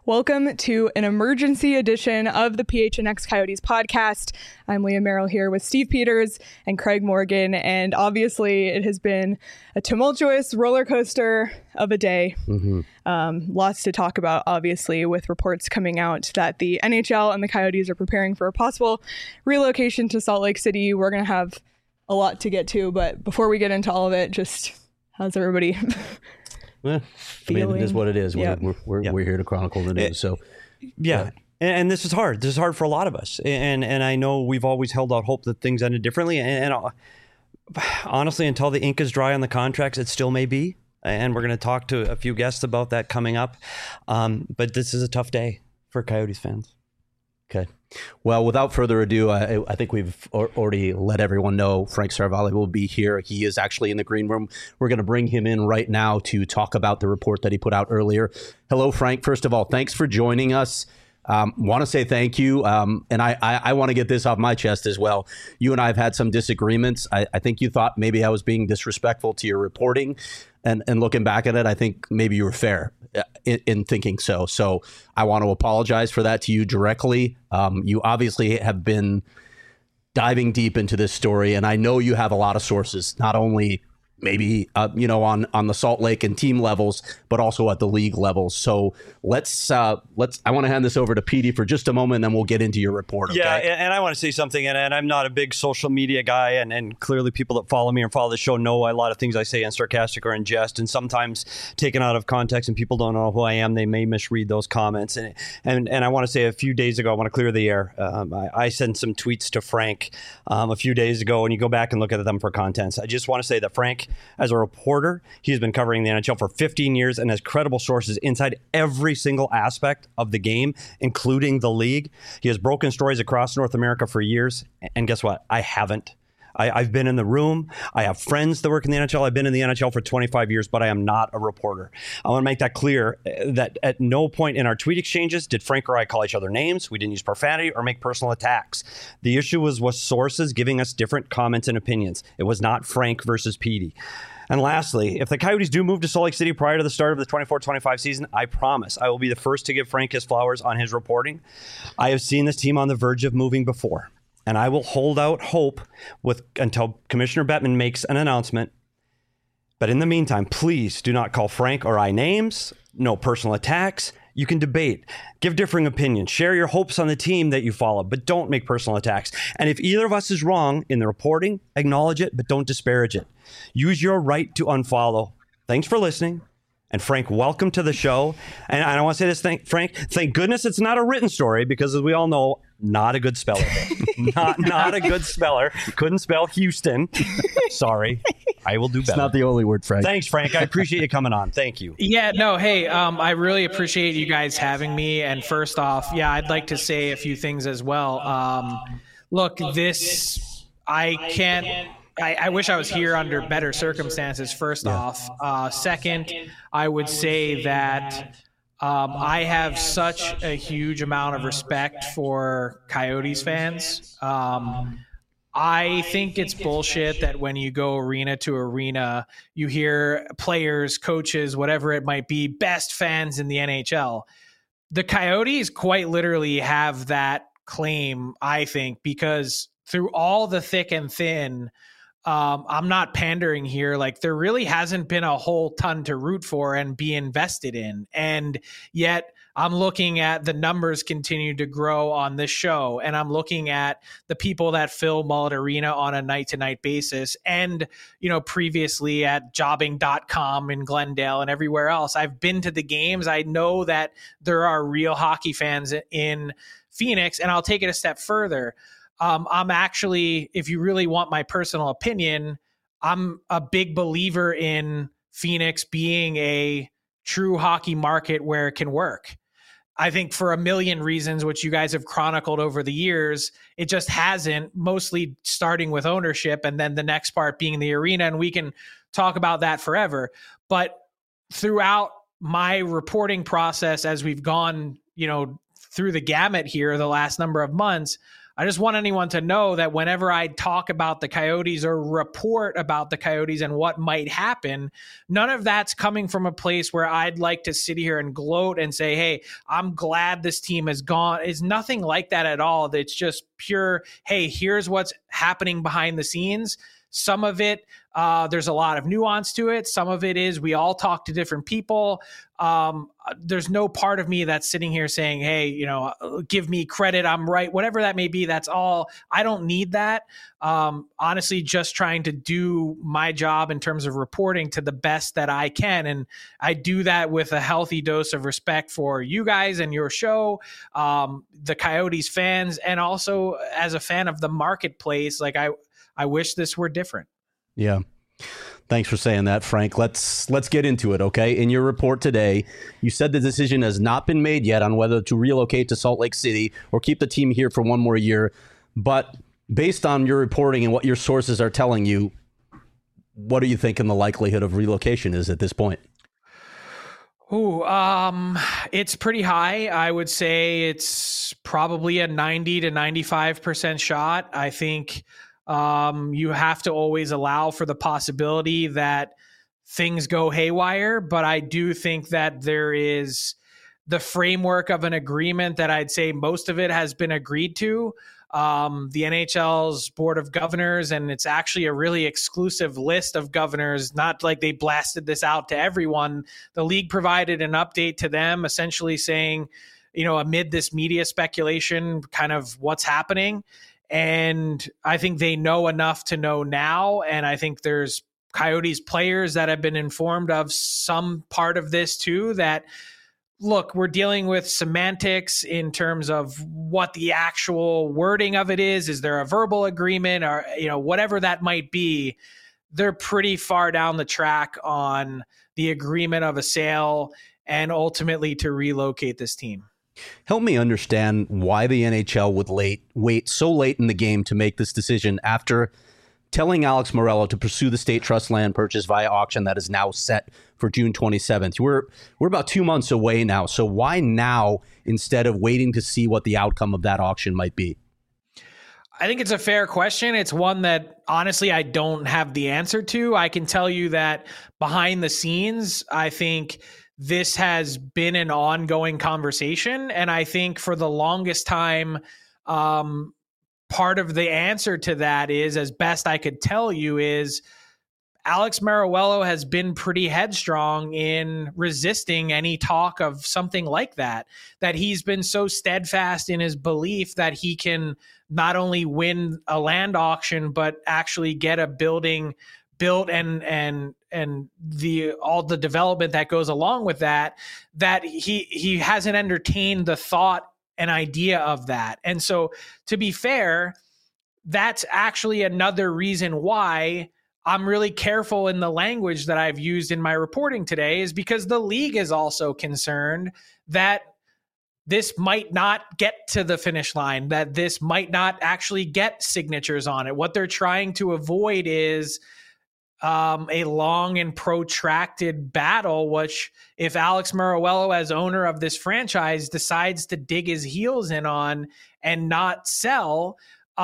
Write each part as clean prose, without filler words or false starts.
Welcome to an emergency edition of the PHNX Coyotes podcast. I'm Leah Merrill here with Steve Peters and Craig Morgan, and obviously it has been a tumultuous roller coaster of a day. Lots to talk about, obviously, with reports coming out that the NHL and the Coyotes are preparing for a possible relocation to Salt Lake City. We're going to have a lot to get to, but before we get into all of it, just how's everybody Well, I mean, it is what it is. Yep. We're here to chronicle the news. And this is hard. This is hard for a lot of us. And I know we've always held out hope that things ended differently. And honestly, until the ink is dry on the contracts, it still may be. And we're going to talk to a few guests about that coming up. But this is a tough day for Coyotes fans. Okay. Well, without further ado, I think we've already let everyone know Frank Seravalli will be here. He is actually in the green room. We're going to bring him in right now to talk about the report that he put out earlier. Hello, Frank. First of all, thanks for joining us. Want to say thank you. And I want to get this off my chest as well. You and I have had some disagreements. I think you thought maybe I was being disrespectful to your reporting. And looking back at it, I think maybe you were fair in thinking so. So I want to apologize for that to you directly. You obviously have been diving deep into this story, and I know you have a lot of sources, not only maybe on the Salt Lake and team levels, but also at the league levels. So let's I want to hand this over to Petey for just a moment, and then we'll get into your report. Okay? Yeah, and I want to say something, and I'm not a big social media guy, and clearly people that follow me and follow the show know a lot of things I say in sarcastic or in jest, and sometimes taken out of context, and people don't know who I am. They may misread those comments. And I want to say a few days ago, I want to clear the air. I sent some tweets to Frank a few days ago, and you go back and look at them for contents. I just want to say that Frank, as a reporter, he's been covering the NHL for 15 years and has credible sources inside every single aspect of the game, including the league. He has broken stories across North America for years. And guess what? I haven't. I've been in the room. I have friends that work in the NHL. I've been in the NHL for 25 years, but I am not a reporter. I want to make that clear that at no point in our tweet exchanges did Frank or I call each other names. We didn't use profanity or make personal attacks. The issue was sources giving us different comments and opinions. It was not Frank versus Petey. And lastly, if the Coyotes do move to Salt Lake City prior to the start of the 24-25 season, I promise I will be the first to give Frank his flowers on his reporting. I have seen this team on the verge of moving before, and I will hold out hope until Commissioner Bettman makes an announcement. But in the meantime, please do not call Frank or I names, no personal attacks. You can debate, give differing opinions, share your hopes on the team that you follow, but don't make personal attacks. And if either of us is wrong in the reporting, acknowledge it, but don't disparage it. Use your right to unfollow. Thanks for listening. And Frank, welcome to the show. And I want to say this, Frank, thank goodness it's not a written story, because as we all know, not a good speller. not a good speller. Couldn't spell Houston. Sorry. I will do better. It's not the only word, Frank. Thanks, Frank. I appreciate you coming on. Thank you. Yeah, no, hey, I really appreciate you guys having me. And first off, yeah, I'd like to say a few things as well. Look, I wish I was here under better circumstances, first off. Second, I would say that I have such a huge amount of respect for Coyotes fans. I think it's bullshit that when you go arena to arena, you hear players, coaches, whatever it might be, best fans in the NHL. The Coyotes quite literally have that claim, I think, because through all the thick and thin, I'm not pandering here. Like, there really hasn't been a whole ton to root for and be invested in. And yet I'm looking at the numbers continue to grow on this show. And I'm looking at the people that fill Mullet Arena on a night to night basis. And, previously at jobbing.com in Glendale and everywhere else, I've been to the games. I know that there are real hockey fans in Phoenix, and I'll take it a step further. I'm actually, if you really want my personal opinion, I'm a big believer in Phoenix being a true hockey market where it can work. I think for a million reasons, which you guys have chronicled over the years, it just hasn't, mostly starting with ownership and then the next part being the arena. And we can talk about that forever. But throughout my reporting process, as we've gone, through the gamut here the last number of months, I just want anyone to know that whenever I talk about the Coyotes or report about the Coyotes and what might happen, none of that's coming from a place where I'd like to sit here and gloat and say, hey, I'm glad this team is gone. It's nothing like that at all. It's just pure, hey, here's what's happening behind the scenes. Some of it, there's a lot of nuance to it. Some of it is we all talk to different people. There's no part of me that's sitting here saying, hey, give me credit, I'm right, whatever that may be. That's all. I don't need that. Honestly, just trying to do my job in terms of reporting to the best that I can. And I do that with a healthy dose of respect for you guys and your show, the Coyotes fans, and also as a fan of the marketplace. Like I wish this were different. Yeah. Thanks for saying that, Frank. Let's get into it, okay? In your report today, you said the decision has not been made yet on whether to relocate to Salt Lake City or keep the team here for one more year. But based on your reporting and what your sources are telling you, what are you thinking the likelihood of relocation is at this point? It's pretty high. I would say it's probably a 90 to 95% shot. I think you have to always allow for the possibility that things go haywire, but I do think that there is the framework of an agreement that I'd say most of it has been agreed to. The NHL's Board of Governors, and it's actually a really exclusive list of governors, not like they blasted this out to everyone. The league provided an update to them essentially saying, amid this media speculation, kind of what's happening. And I think they know enough to know now. And I think there's Coyotes players that have been informed of some part of this too, that, look, we're dealing with semantics in terms of what the actual wording of it is. Is there a verbal agreement or, whatever that might be? They're pretty far down the track on the agreement of a sale and ultimately to relocate this team. Help me understand why the NHL would wait so late in the game to make this decision after telling Alex Meruelo to pursue the state trust land purchase via auction that is now set for June 27th. We're about 2 months away now. So why now instead of waiting to see what the outcome of that auction might be? I think it's a fair question. It's one that honestly I don't have the answer to. I can tell you that behind the scenes, I think this has been an ongoing conversation. And I think for the longest time, part of the answer to that is, as best I could tell you, is Alex Meruelo has been pretty headstrong in resisting any talk of something like that he's been so steadfast in his belief that he can not only win a land auction, but actually get a building built and all the development that goes along with that he hasn't entertained the thought and idea of that. And so, to be fair, that's actually another reason why I'm really careful in the language that I've used in my reporting today, is because the league is also concerned that this might not get to the finish line, that this might not actually get signatures on it. What they're trying to avoid is a long and protracted battle, which if Alex Meruelo, as owner of this franchise, decides to dig his heels in on and not sell,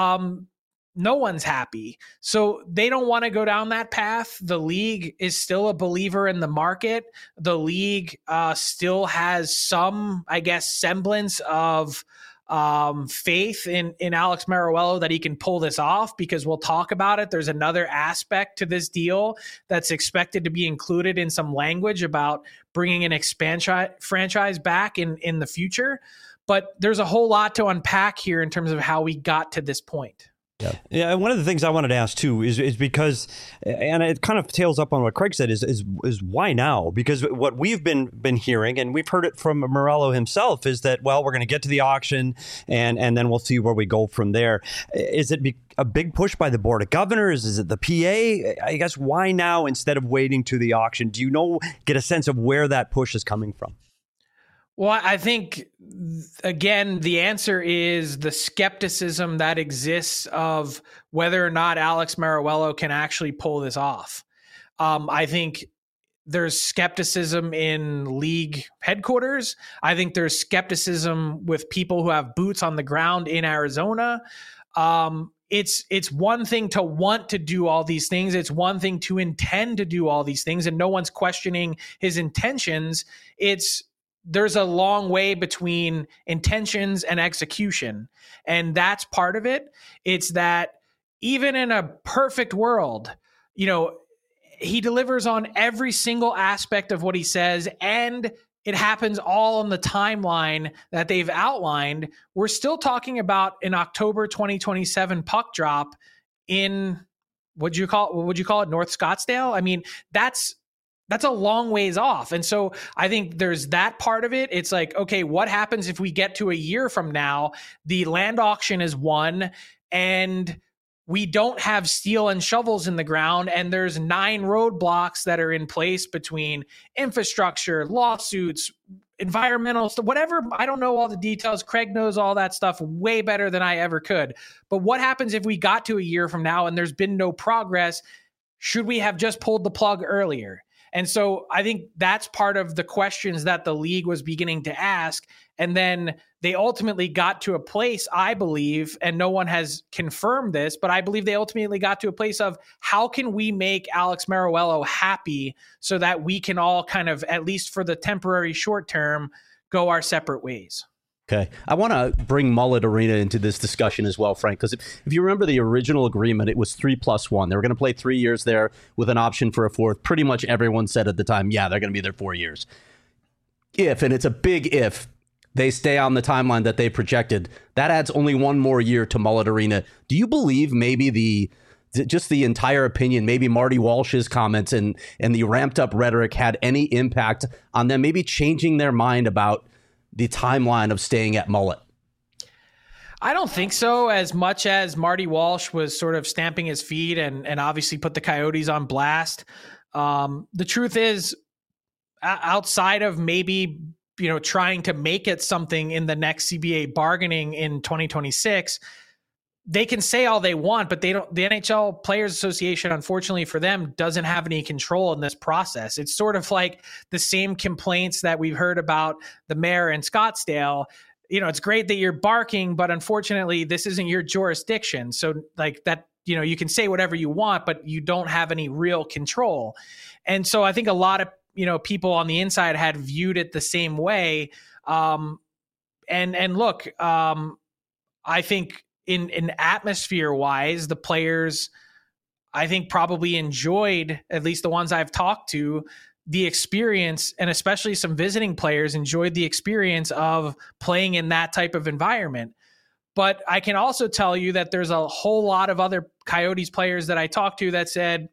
no one's happy. So they don't want to go down that path. The league is still a believer in the market. The league still has some, I guess, semblance of faith in Alex Meruelo that he can pull this off, because we'll talk about it. There's another aspect to this deal that's expected to be included in some language about bringing an expansion franchise back in the future. But there's a whole lot to unpack here in terms of how we got to this point. Yeah. One of the things I wanted to ask too is because, and it kind of tails up on what Craig said, is why now? Because what we've been hearing, and we've heard it from Meruelo himself, is that, well, we're going to get to the auction and then we'll see where we go from there. Is it a big push by the Board of Governors? Is it the PA? I guess why now instead of waiting to the auction? Do you get a sense of where that push is coming from? Well, I think, again, the answer is the skepticism that exists of whether or not Alex Meruelo can actually pull this off. I think there's skepticism in league headquarters. I think there's skepticism with people who have boots on the ground in Arizona. It's one thing to want to do all these things. It's one thing to intend to do all these things, and no one's questioning his intentions. There's a long way between intentions and execution, and that's part of it. It's that even in a perfect world, he delivers on every single aspect of what he says, and it happens all on the timeline that they've outlined. We're still talking about an October 2027 puck drop in what would you call it, North Scottsdale? I mean, that's a long ways off. And so I think there's that part of it. It's like, okay, what happens if we get to a year from now, the land auction is won and we don't have steel and shovels in the ground, and there's 9 roadblocks that are in place between infrastructure, lawsuits, environmental stuff, whatever. I don't know all the details. Craig knows all that stuff way better than I ever could. But what happens if we got to a year from now and there's been no progress? Should we have just pulled the plug earlier? And so I think that's part of the questions that the league was beginning to ask. And then they ultimately got to a place, I believe, and no one has confirmed this, but I believe they ultimately got to a place of how can we make Alex Meruelo happy so that we can all kind of, at least for the temporary short term, go our separate ways. Okay. I want to bring Mullet Arena into this discussion as well, Frank, because if you remember the original agreement, it was 3+1. They were going to play 3 years there with an option for a fourth. Pretty much everyone said at the time, yeah, they're going to be there 4 years. If, and it's a big if, they stay on the timeline that they projected, that adds only one more year to Mullet Arena. Do you believe maybe just the entire opinion, maybe Marty Walsh's comments and the ramped up rhetoric had any impact on them maybe changing their mind about the timeline of staying at Mullet? I don't think so, as much as Marty Walsh was sort of stamping his feet and obviously put the Coyotes on blast. The truth is, outside of maybe trying to make it something in the next CBA bargaining in 2026, they can say all they want, but they don't. The NHL Players Association, unfortunately for them, doesn't have any control in this process. It's sort of like the same complaints that we've heard about the mayor in Scottsdale. It's great that you're barking, but unfortunately, this isn't your jurisdiction. So like that, you can say whatever you want, but you don't have any real control. And so I think a lot of people on the inside had viewed it the same way. And look, I think in atmosphere wise, the players, I think probably enjoyed, at least the ones I've talked to, the experience, and especially some visiting players enjoyed the experience of playing in that type of environment. But I can also tell you that there's a whole lot of other Coyotes players that I talked to that said,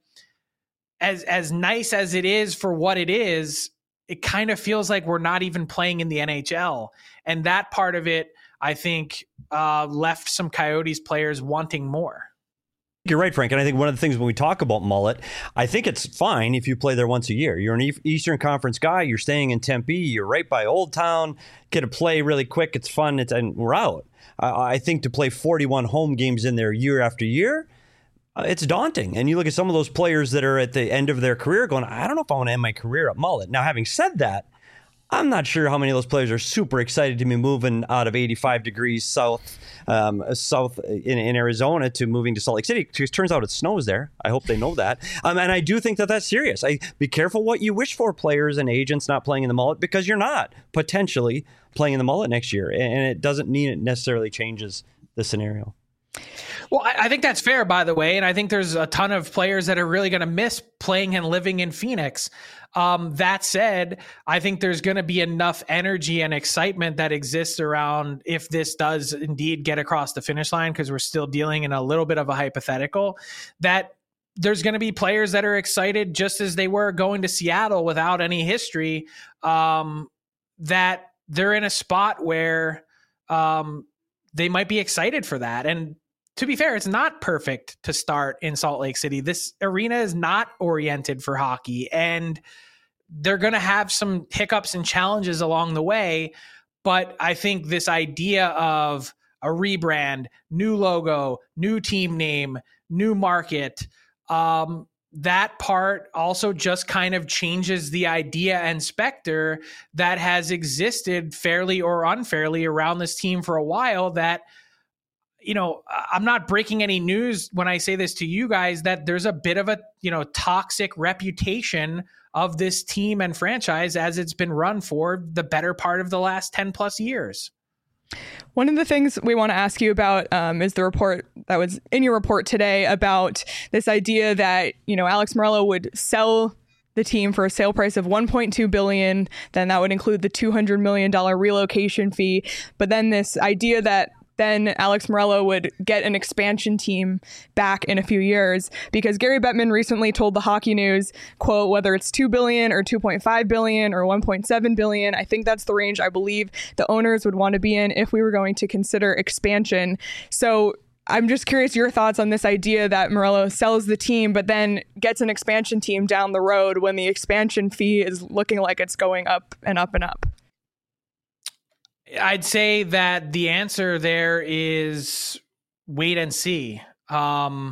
as nice as it is for what it is, it kind of feels like we're not even playing in the NHL. And that part of it, I think, left some Coyotes players wanting more. You're right, Frank. And I think one of the things when we talk about Mullet, I think it's fine if you play there once a year. You're an Eastern Conference guy. You're staying in Tempe. You're right by Old Town. Get to play really quick. It's fun. And we're out. I think to play 41 home games in there year after year, it's daunting. And you look at some of those players that are at the end of their career going, I don't know if I want to end my career at Mullet. Now, having said that, I'm not sure how many of those players are super excited to be moving out of 85 degrees south in Arizona to moving to Salt Lake City. Because it turns out it snows there. I hope they know that. And I do think that that's serious. Be careful what you wish for, players and agents not playing in the Mullet, because you're not potentially playing in the Mullet next year. And it doesn't mean it necessarily changes the scenario. Well, I think that's fair, by the way. And I think there's a ton of players that are really going to miss playing and living in Phoenix. That said, I think there's going to be enough energy and excitement that exists around if this does indeed get across the finish line, because we're still dealing in a little bit of a hypothetical, that there's going to be players that are excited just as they were going to Seattle without any history, that they're in a spot where they might be excited for that. And to be fair, it's not perfect to start in Salt Lake City. This arena is not oriented for hockey, and they're going to have some hiccups and challenges along the way. But I think this idea of a rebrand, new logo, new team name, new market, that part also just kind of changes the idea and specter that has existed fairly or unfairly around this team for a while, that, you know, I'm not breaking any news when I say this to you guys, that there's a bit of a, you know, toxic reputation of this team and franchise as it's been run for the better part of the last 10 plus years. One of the things we want to ask you about is the report that was in your report today about this idea that, you know, Alex Meruelo would sell the team for a sale price of $1.2 billion. Then that would include the $200 million relocation fee. But then this idea that then Alex Meruelo would get an expansion team back in a few years, because Gary Bettman recently told the Hockey News, quote, whether it's $2 billion or $2.5 billion or $1.7 billion, I think that's the range I believe the owners would want to be in if we were going to consider expansion. So I'm just curious your thoughts on this idea that Meruelo sells the team, but then gets an expansion team down the road when the expansion fee is looking like it's going up and up and up. I'd say that the answer there is wait and see. I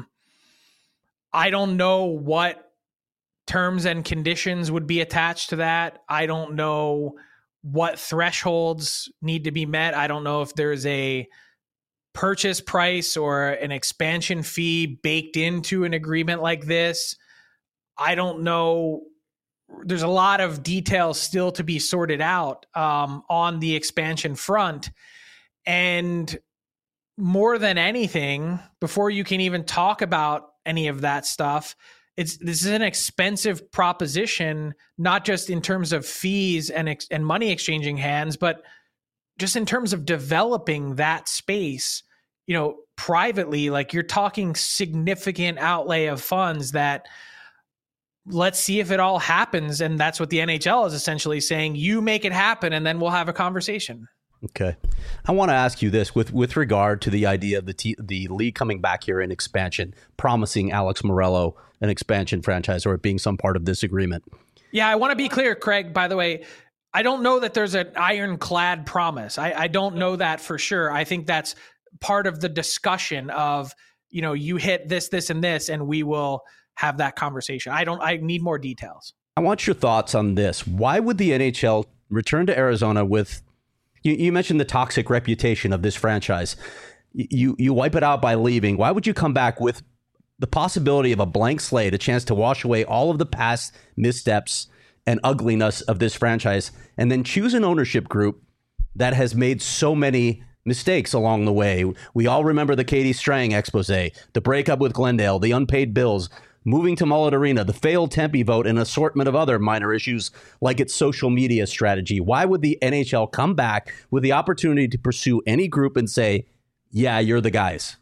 don't know what terms and conditions would be attached to that. I don't know what thresholds need to be met. I don't know if there's a purchase price or an expansion fee baked into an agreement like this. I don't know. There's a lot of details still to be sorted out on the expansion front. And more than anything, before you can even talk about any of that stuff, this is an expensive proposition, not just in terms of fees and money exchanging hands, but just in terms of developing that space, you know, privately. Like, you're talking significant outlay of funds that, let's see if it all happens. And that's what the NHL is essentially saying. You make it happen, and then we'll have a conversation. Okay. I want to ask you this with regard to the idea of the league coming back here in expansion, promising Alex Meruelo an expansion franchise, or it being some part of this agreement. Yeah, I want to be clear, Craig, by the way, I don't know that there's an ironclad promise. I don't know that for sure. I think that's part of the discussion of, you know, you hit this, this, and this, and we will have that conversation. I need more details. I want your thoughts on this. Why would the NHL return to Arizona with, you mentioned the toxic reputation of this franchise. You wipe it out by leaving. Why would you come back with the possibility of a blank slate, a chance to wash away all of the past missteps and ugliness of this franchise, and then choose an ownership group that has made so many mistakes along the way? We all remember the Katie Strang expose, the breakup with Glendale, the unpaid bills, moving to Mullet Arena, the failed Tempe vote, and an assortment of other minor issues like its social media strategy. Why would the NHL come back with the opportunity to pursue any group and say, yeah, you're the guys?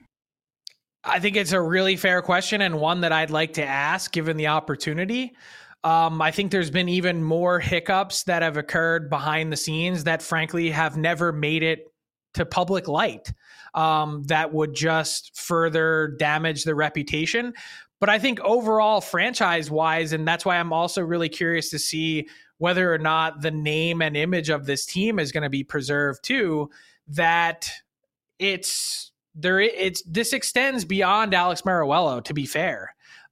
I think it's a really fair question, and one that I'd like to ask given the opportunity. I think there's been even more hiccups that have occurred behind the scenes that frankly have never made it to public light, that would just further damage the reputation. But I think overall, franchise-wise, and that's why I'm also really curious to see whether or not the name and image of this team is going to be preserved too, that this extends beyond Alex Meruelo, to be fair.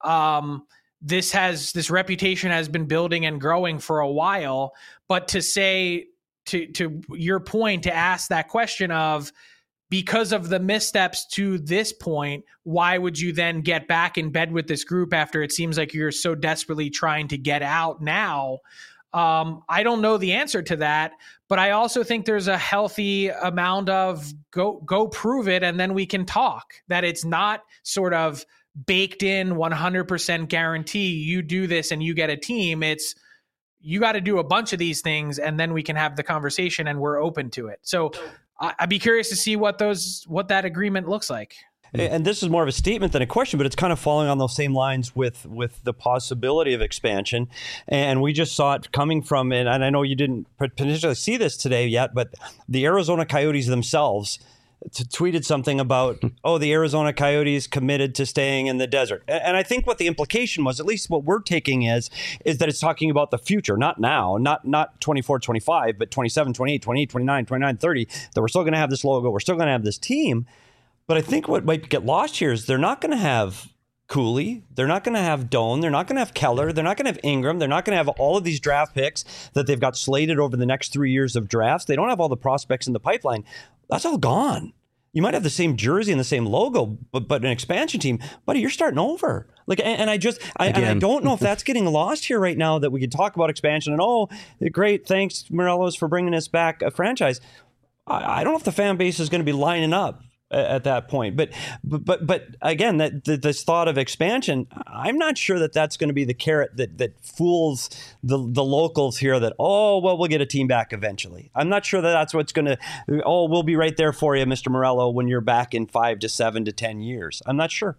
This reputation has been building and growing for a while, but to say, to your point, to ask that question of, because of the missteps to this point, why would you then get back in bed with this group after it seems like you're so desperately trying to get out now? I don't know the answer to that, but I also think there's a healthy amount of go prove it, and then we can talk. That it's not sort of baked in 100% guarantee you do this and you get a team. It's, you got to do a bunch of these things, and then we can have the conversation, and we're open to it. So I'd be curious to see what that agreement looks like. And this is more of a statement than a question, but it's kind of following on those same lines with the possibility of expansion. And we just saw it coming from, and I know you didn't potentially see this today yet, but the Arizona Coyotes themselves tweeted something about, the Arizona Coyotes committed to staying in the desert. And I think what the implication was, at least what we're taking is that it's talking about the future, not now, not 24, 25, but 27, 28, 28, 29, 29, 30, that we're still going to have this logo, we're still going to have this team. But I think what might get lost here is they're not going to have Cooley. They're not going to have Doan. They're not going to have Keller. They're not going to have Ingram. They're not going to have all of these draft picks that they've got slated over the next 3 years of drafts. They don't have all the prospects in the pipeline. That's all gone. You might have the same jersey and the same logo, but an expansion team, buddy, you're starting over. Like, and I don't know if that's getting lost here right now, that we could talk about expansion and, oh, great, thanks, Morelos, for bringing us back a franchise. I don't know if the fan base is going to be lining up at that point. But again, this thought of expansion, I'm not sure that that's going to be the carrot that fools the locals here, that, oh, well, we'll get a team back eventually. I'm not sure that that's what's going to, oh, we'll be right there for you, Mr. Morello, when you're back in 5 to 7 to 10 years. I'm not sure.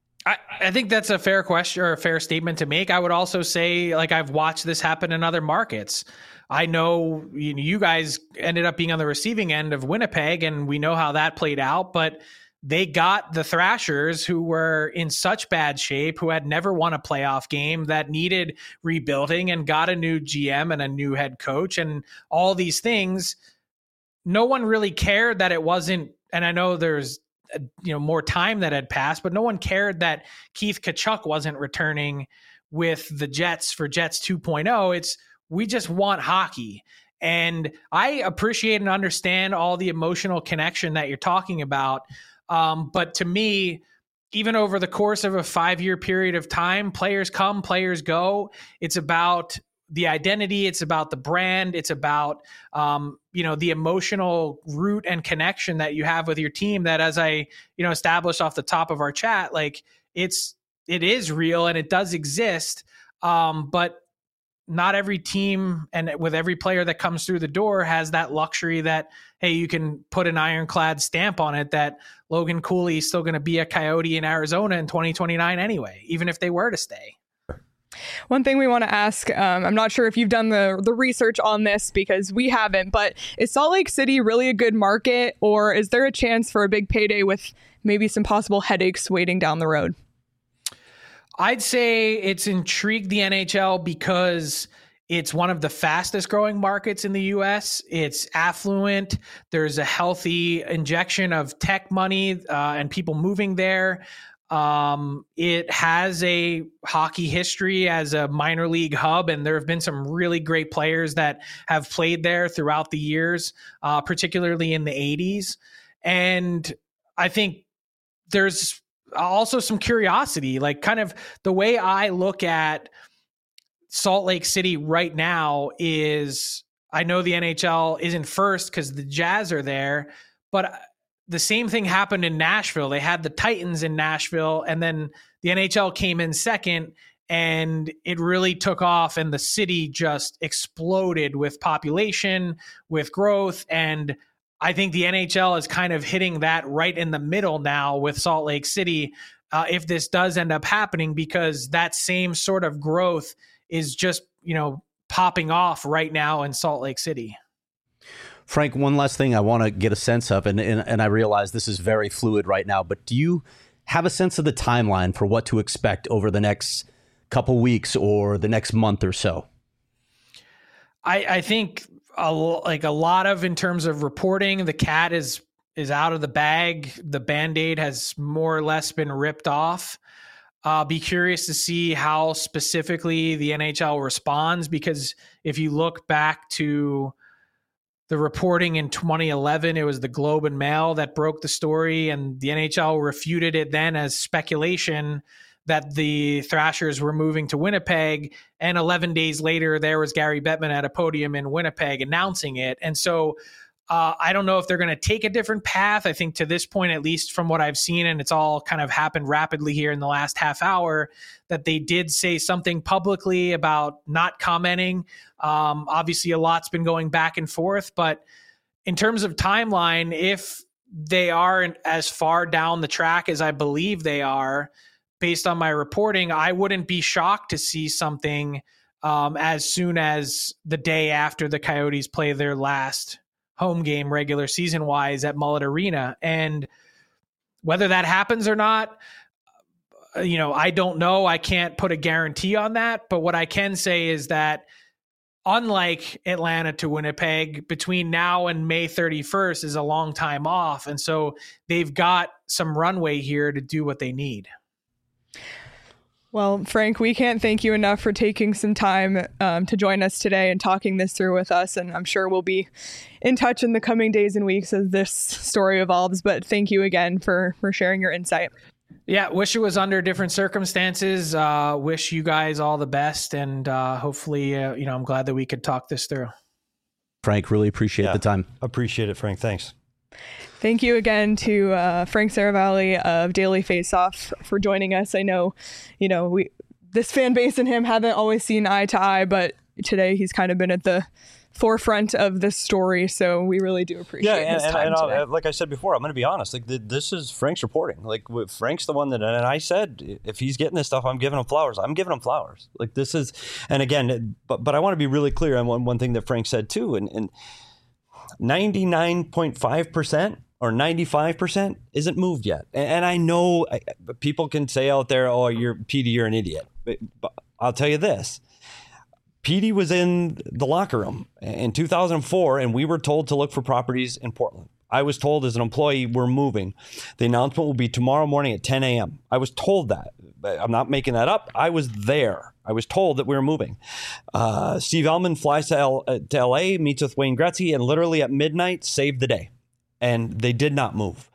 I think that's a fair question, or a fair statement to make. I would also say, like, I've watched this happen in other markets. I know you guys ended up being on the receiving end of Winnipeg, and we know how that played out, but they got the Thrashers, who were in such bad shape, who had never won a playoff game, that needed rebuilding, and got a new GM and a new head coach and all these things. No one really cared that it wasn't, and I know there's more time that had passed, but no one cared that Keith Tkachuk wasn't returning with the Jets for Jets 2.0. It's, we just want hockey. And I appreciate and understand all the emotional connection that you're talking about. But to me, even over the course of a 5-year period of time, players come, players go. It's about the identity. It's about the brand. It's about, the emotional root and connection that you have with your team, that, as I, established off the top of our chat, like, it is real and it does exist. But not every team and with every player that comes through the door has that luxury that, hey, you can put an ironclad stamp on it that Logan Cooley is still going to be a Coyote in Arizona in 2029 anyway, even if they were to stay. One thing we want to ask, I'm not sure if you've done the research on this, because we haven't, but is Salt Lake City really a good market, or is there a chance for a big payday with maybe some possible headaches waiting down the road? I'd say it's intrigued the NHL because it's one of the fastest growing markets in the U.S. It's affluent. There's a healthy injection of tech money and people moving there. It has a hockey history as a minor league hub, and there have been some really great players that have played there throughout the years, particularly in the 80s. And I think there's also some curiosity, like, kind of the way I look at Salt Lake City right now is, I know the NHL isn't first because the Jazz are there, but the same thing happened in Nashville. They had the Titans in Nashville, and then the NHL came in second, and it really took off, and the city just exploded with population, with growth. And I think the NHL is kind of hitting that right in the middle now with Salt Lake City, if this does end up happening, because that same sort of growth is just, popping off right now in Salt Lake City. Frank, one last thing I want to get a sense of, and I realize this is very fluid right now, but do you have a sense of the timeline for what to expect over the next couple weeks or the next month or so? I think a lot of, in terms of reporting, the cat is out of the bag. The Band-Aid has more or less been ripped off. Be curious to see how specifically the NHL responds, because if you look back to the reporting in 2011, it was the Globe and Mail that broke the story, and the NHL refuted it then as speculation that the Thrashers were moving to Winnipeg. And 11 days later, there was Gary Bettman at a podium in Winnipeg announcing it. And so I don't know if they're going to take a different path. I think to this point, at least from what I've seen, and it's all kind of happened rapidly here in the last half hour, that they did say something publicly about not commenting. Obviously, a lot's been going back and forth, but in terms of timeline, if they are as far down the track as I believe they are, based on my reporting, I wouldn't be shocked to see something as soon as the day after the Coyotes play their last home game regular season wise at Mullet Arena. And whether that happens or not, I don't know. I can't put a guarantee on that. But what I can say is that, unlike Atlanta to Winnipeg, between now and May 31st is a long time off. And so they've got some runway here to do what they need. Well, Frank, we can't thank you enough for taking some time to join us today and talking this through with us. And I'm sure we'll be in touch in the coming days and weeks as this story evolves. But thank you again for sharing your insight. Yeah, wish it was under different circumstances. Wish you guys all the best. And hopefully, I'm glad that we could talk this through. Frank, really appreciate the time. Appreciate it, Frank. Thanks. Thank you again to Frank Seravalli of Daily Faceoff for joining us. I know, this fan base and him haven't always seen eye to eye, but today he's kind of been at the forefront of this story. So we really do appreciate his time today. Like I said before, I'm going to be honest. Like this is Frank's reporting. Like Frank's the one that, and I said, if he's getting this stuff, I'm giving him flowers. I'm giving him flowers. Like this is, and again, but I want to be really clear on one thing that Frank said too, and 99.5%. or 95% isn't moved yet. And I know people can say out there, oh, Petey, you're an idiot. But I'll tell you this. Petey was in the locker room in 2004, and we were told to look for properties in Portland. I was told as an employee, we're moving. The announcement will be tomorrow morning at 10 a.m. I was told that. I'm not making that up. I was there. I was told that we were moving. Steve Ellman flies to LA, meets with Wayne Gretzky, and literally at midnight saved the day. And they did not move.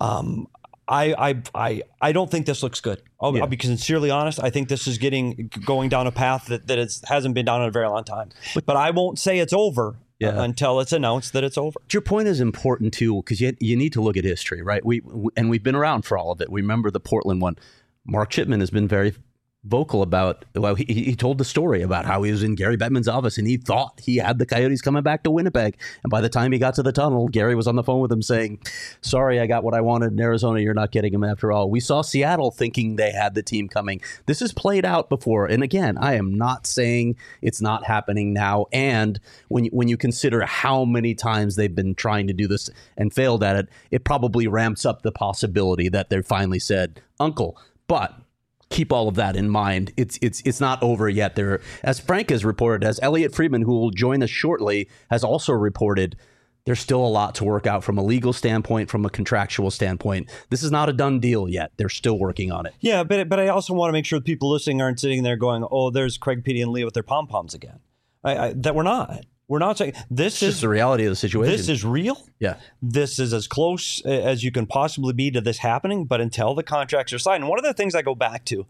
I don't think this looks good. I'll be sincerely honest. I think this is going down a path that hasn't been down in a very long time. But I won't say it's over until it's announced that it's over. Your point is important too, because you need to look at history, right? We've been around for all of it. We remember the Portland one. Mark Chipman has been very vocal about, he told the story about how he was in Gary Bettman's office and he thought he had the Coyotes coming back to Winnipeg. And by the time he got to the tunnel, Gary was on the phone with him saying, sorry, I got what I wanted in Arizona. You're not getting him after all. We saw Seattle thinking they had the team coming. This has played out before. And again, I am not saying it's not happening now. And when you consider how many times they've been trying to do this and failed at it, it probably ramps up the possibility that they finally said, Uncle. But keep all of that in mind. It's not over yet. There, as Frank has reported, as Elliot Friedman, who will join us shortly, has also reported, there's still a lot to work out from a legal standpoint, from a contractual standpoint. This is not a done deal yet. They're still working on it. Yeah, but I also want to make sure the people listening aren't sitting there going, oh, there's Craig, Petey, and Leah with their pom-poms again. That we're not. We're not saying this is the reality of the situation. This is real. Yeah. This is as close as you can possibly be to this happening. But until the contracts are signed, and one of the things I go back to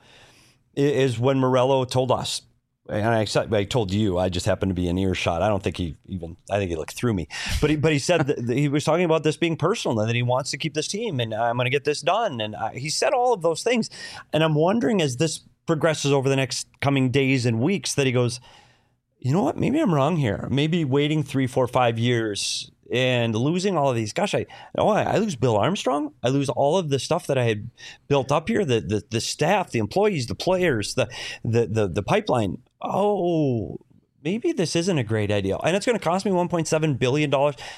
is when Morello told us, and I told you, I just happened to be in earshot. I don't think I think he looked through me. But he said that he was talking about this being personal and that he wants to keep this team and I'm going to get this done. And he said all of those things. And I'm wondering as this progresses over the next coming days and weeks that he goes, you know what? Maybe I'm wrong here. Maybe waiting 3, 4, 5 years and losing all of these. Gosh, I lose Bill Armstrong. I lose all of the stuff that I had built up here. The staff, the employees, the players, the pipeline. Oh, maybe this isn't a great idea, and it's going to cost me $1.7 billion.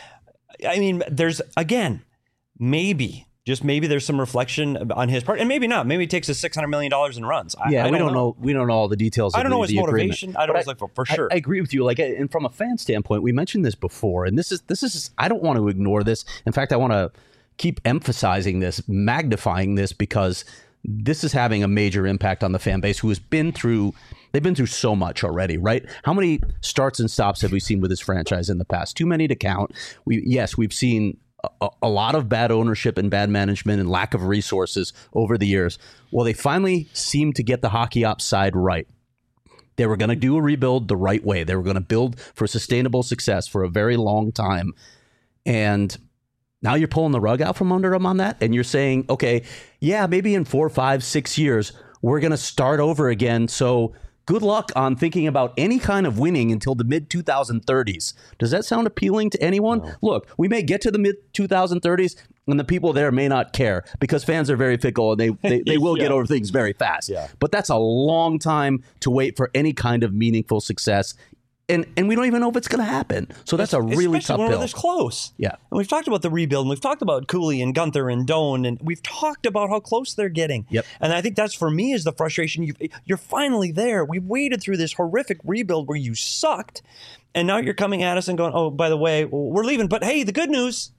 I mean, there's again, maybe. Just maybe there's some reflection on his part, and maybe not. Maybe he takes us $600 million in runs. We don't know. We don't know all the details. I don't know his motivation. Agreement. I don't know for sure. I agree with you. And from a fan standpoint, we mentioned this before, and this is. I don't want to ignore this. In fact, I want to keep emphasizing this, magnifying this, because this is having a major impact on the fan base who has been through. They've been through so much already, right? How many starts and stops have we seen with this franchise in the past? Too many to count. We've seen a lot of bad ownership and bad management and lack of resources over the years. Well, they finally seemed to get the hockey ops side right. They were going to do a rebuild the right way. They were going to build for sustainable success for a very long time. And now you're pulling the rug out from under them on that. And you're saying, okay, yeah, maybe in 4, 5, 6 years, we're going to start over again. So good luck on thinking about any kind of winning until the mid-2030s. Does that sound appealing to anyone? No. Look, we may get to the mid-2030s and the people there may not care because fans are very fickle and they will get over things very fast. Yeah. But that's a long time to wait for any kind of meaningful success. And we don't even know if it's going to happen. So that's a really tough pill. Especially when we're this close. Yeah. And we've talked about the rebuild, and we've talked about Cooley and Gunther and Doan, and we've talked about how close they're getting. Yep. And I think that's, for me, is the frustration. You're finally there. We waited through this horrific rebuild where you sucked, and now you're coming at us and going, oh, by the way, we're leaving. But hey, the good news,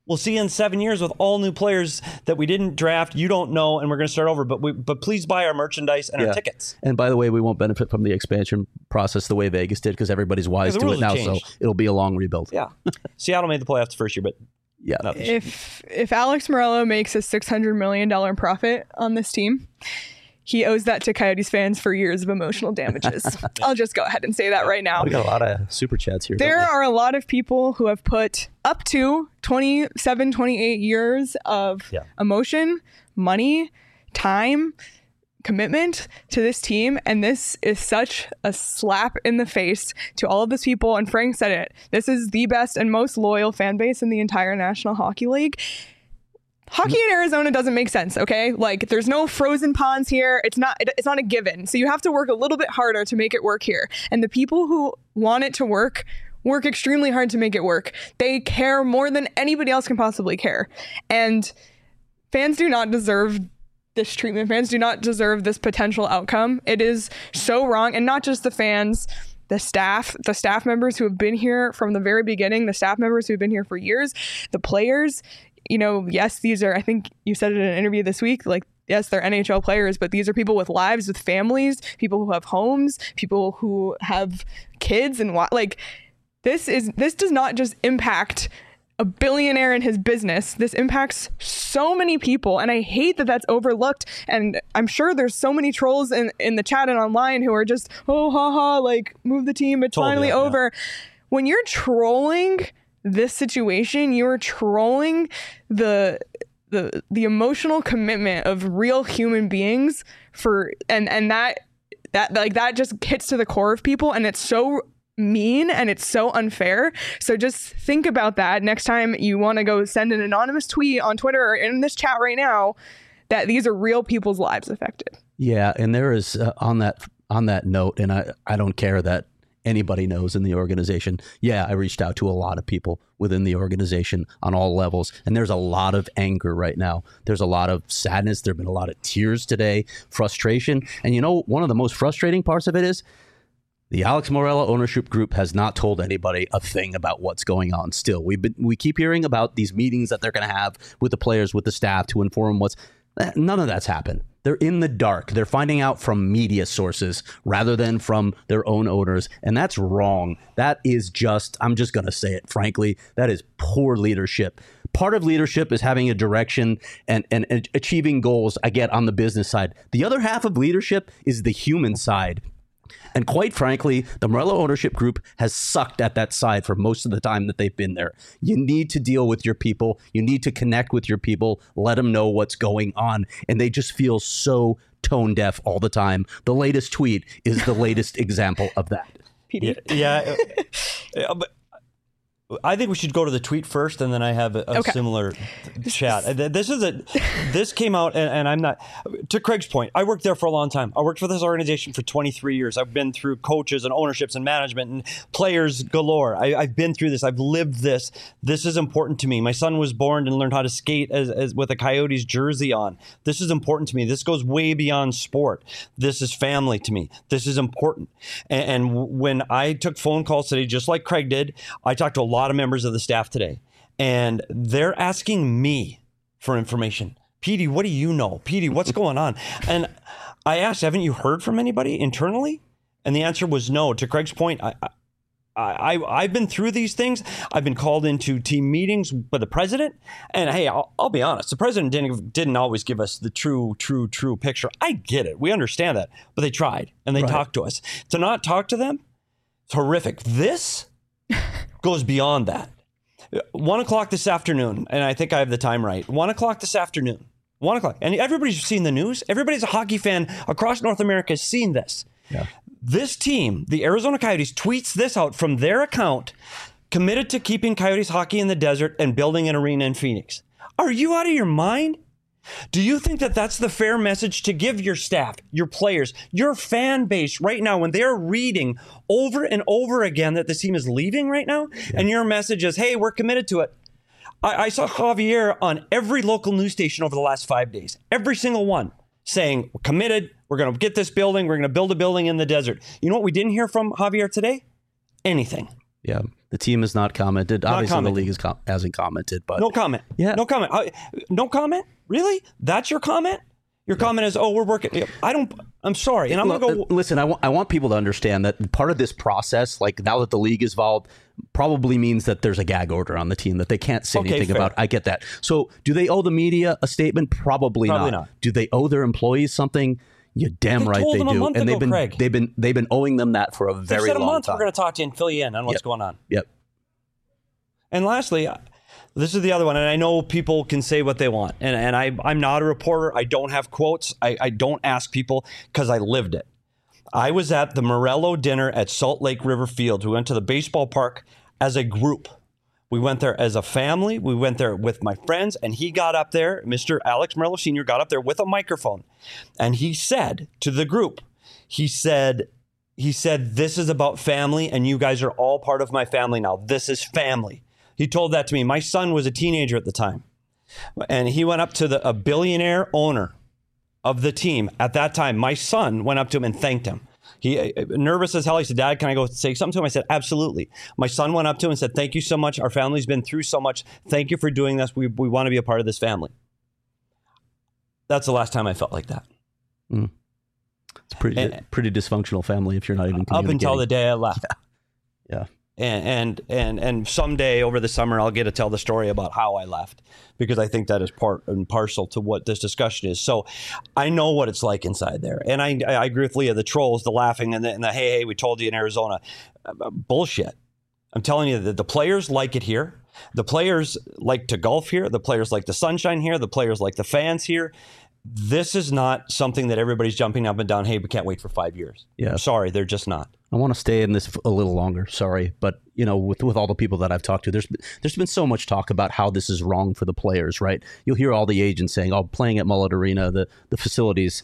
We'll see you in 7 years with all new players that we didn't draft, you don't know, and we're going to start over. But please buy our merchandise and our tickets. And by the way, we won't benefit from the expansion process the way Vegas did because everybody's wise to it now. So it'll be a long rebuild. Yeah. Seattle made the playoffs the first year, but yeah. If Alex Morello makes a $600 million profit on this team, he owes that to Coyotes fans for years of emotional damages. I'll just go ahead and say that right now. We got a lot of super chats here. There are a lot of people who have put up to 27, 28 years of emotion, money, time, commitment to this team. And this is such a slap in the face to all of these people. And Frank said it. This is the best and most loyal fan base in the entire National Hockey League. Hockey in Arizona doesn't make sense, okay? Like, there's no frozen ponds here. It's not a given. So you have to work a little bit harder to make it work here. And the people who want it to work extremely hard to make it work. They care more than anybody else can possibly care. And fans do not deserve this treatment. Fans do not deserve this potential outcome. It is so wrong. And not just the fans, the staff members who have been here from the very beginning, the staff members who have been here for years, the players. You know, yes, these are, I think you said it in an interview this week, like, yes, they're NHL players, but these are people with lives, with families, people who have homes, people who have kids, and like, this does not just impact a billionaire and his business. This impacts so many people, and I hate that that's overlooked. And I'm sure there's so many trolls in the chat and online who are just, oh, haha, like, move the team, it's finally over. Yeah. When you're trolling this situation, you're trolling the emotional commitment of real human beings and that just hits to the core of people, and it's so mean and it's so unfair. So just think about that next time you want to go send an anonymous tweet on Twitter or in this chat right now, that these are real people's lives affected. Yeah, and there is on that note, and I don't care that anybody knows in the organization. Yeah, I reached out to a lot of people within the organization on all levels, and there's a lot of anger right now. There's a lot of sadness. There have been a lot of tears today, frustration. And you know, one of the most frustrating parts of it is the Alex Morello ownership group has not told anybody a thing about what's going on still. We keep hearing about these meetings that they're going to have with the players, with the staff to inform none of that's happened. They're in the dark. They're finding out from media sources rather than from their own owners. And that's wrong. That is just, I'm just going to say it, frankly, that is poor leadership. Part of leadership is having a direction and achieving goals, I get, on the business side. The other half of leadership is the human side. And quite frankly, the Morello ownership group has sucked at that side for most of the time that they've been there. You need to deal with your people. You need to connect with your people. Let them know what's going on. And they just feel so tone deaf all the time. The latest tweet is the latest example of that. Yeah. But I think we should go to the tweet first, and then I have a similar chat. This came out, and I'm not, to Craig's point, I worked there for a long time. I worked for this organization for 23 years. I've been through coaches and ownerships and management and players galore. I've been through this. I've lived this. This is important to me. My son was born and learned how to skate as with a Coyotes jersey on. This is important to me. This goes way beyond sport. This is family to me. This is important. And when I took phone calls today, just like Craig did, I talked to a lot of members of the staff today, and they're asking me for information. Petey, what do you know? Petey, what's going on? And I asked, haven't you heard from anybody internally? And the answer was no. To Craig's point, I've been through these things. I've been called into team meetings by the president, and hey, I'll be honest, the president didn't always give us the true picture. I get it. We understand that, but they tried, and they talked to us. To not talk to them, it's horrific. This goes beyond that. 1 o'clock this afternoon, and I think I have the time right. 1 o'clock this afternoon. 1 o'clock. And everybody's seen the news. Everybody's a hockey fan across North America has seen this. Yeah. This team, the Arizona Coyotes, tweets this out from their account, committed to keeping Coyotes hockey in the desert and building an arena in Phoenix. Are you out of your mind? Do you think that that's the fair message to give your staff, your players, your fan base right now when they're reading over and over again that this team is leaving right now? Yeah. And your message is, hey, we're committed to it. I saw Javier on every local news station over the last 5 days, every single one, saying, we're committed, we're going to get this building, we're going to build a building in the desert. You know what we didn't hear from Javier today? Anything. Yeah. The team has not commented. Not Obviously, commenting. the league hasn't commented, but No comment. Yeah. No comment. No comment? Really? That's your comment? Your comment is, oh, we're working. I'm sorry. And I'm going to go. Listen, I want people to understand that part of this process, like now that the league is involved, probably means that there's a gag order on the team that they can't say anything fair. about. I get that. So do they owe the media a statement? Probably not. Do they owe their employees something? You're damn right they told them a do. month And ago, Craig. they've been owing them that for a They very said a long month time. we're going to talk to you and fill you in on what's going on. Yep. And lastly, this is the other one, and I know people can say what they want, and I'm not a reporter. I don't have quotes. I don't ask people because I lived it. I was at the Morello dinner at Salt Lake River Fields. We went to the baseball park as a group. We went there as a family. We went there with my friends, and he got up there, Mr. Alex Morello Sr. got up there with a microphone, and he said to the group, he said, this is about family, and you guys are all part of my family now. This is family. He told that to me. My son was a teenager at the time, and he went up to a billionaire owner of the team at that time. My son went up to him and thanked him. He, nervous as hell, he said, Dad, can I go say something to him? I said, absolutely. My son went up to him and said, thank you so much. Our family's been through so much. Thank you for doing this. We want to be a part of this family. That's the last time I felt like that. Mm. It's pretty dysfunctional family if you're not even up until the day I left. Yeah. And someday over the summer, I'll get to tell the story about how I left, because I think that is part and parcel to what this discussion is. So I know what it's like inside there. And I agree with Leah, the trolls, the laughing, and the hey, we told you in Arizona. Bullshit. I'm telling you that the players like it here. The players like to golf here. The players like the sunshine here. The players like the fans here. This is not something that everybody's jumping up and down. Hey, we can't wait for 5 years. Yeah. I'm sorry, they're just not. I want to stay in this a little longer. Sorry, but with all the people that I've talked to, there's been so much talk about how this is wrong for the players, right? You'll hear all the agents saying, "Oh, playing at Mullet Arena, the facilities."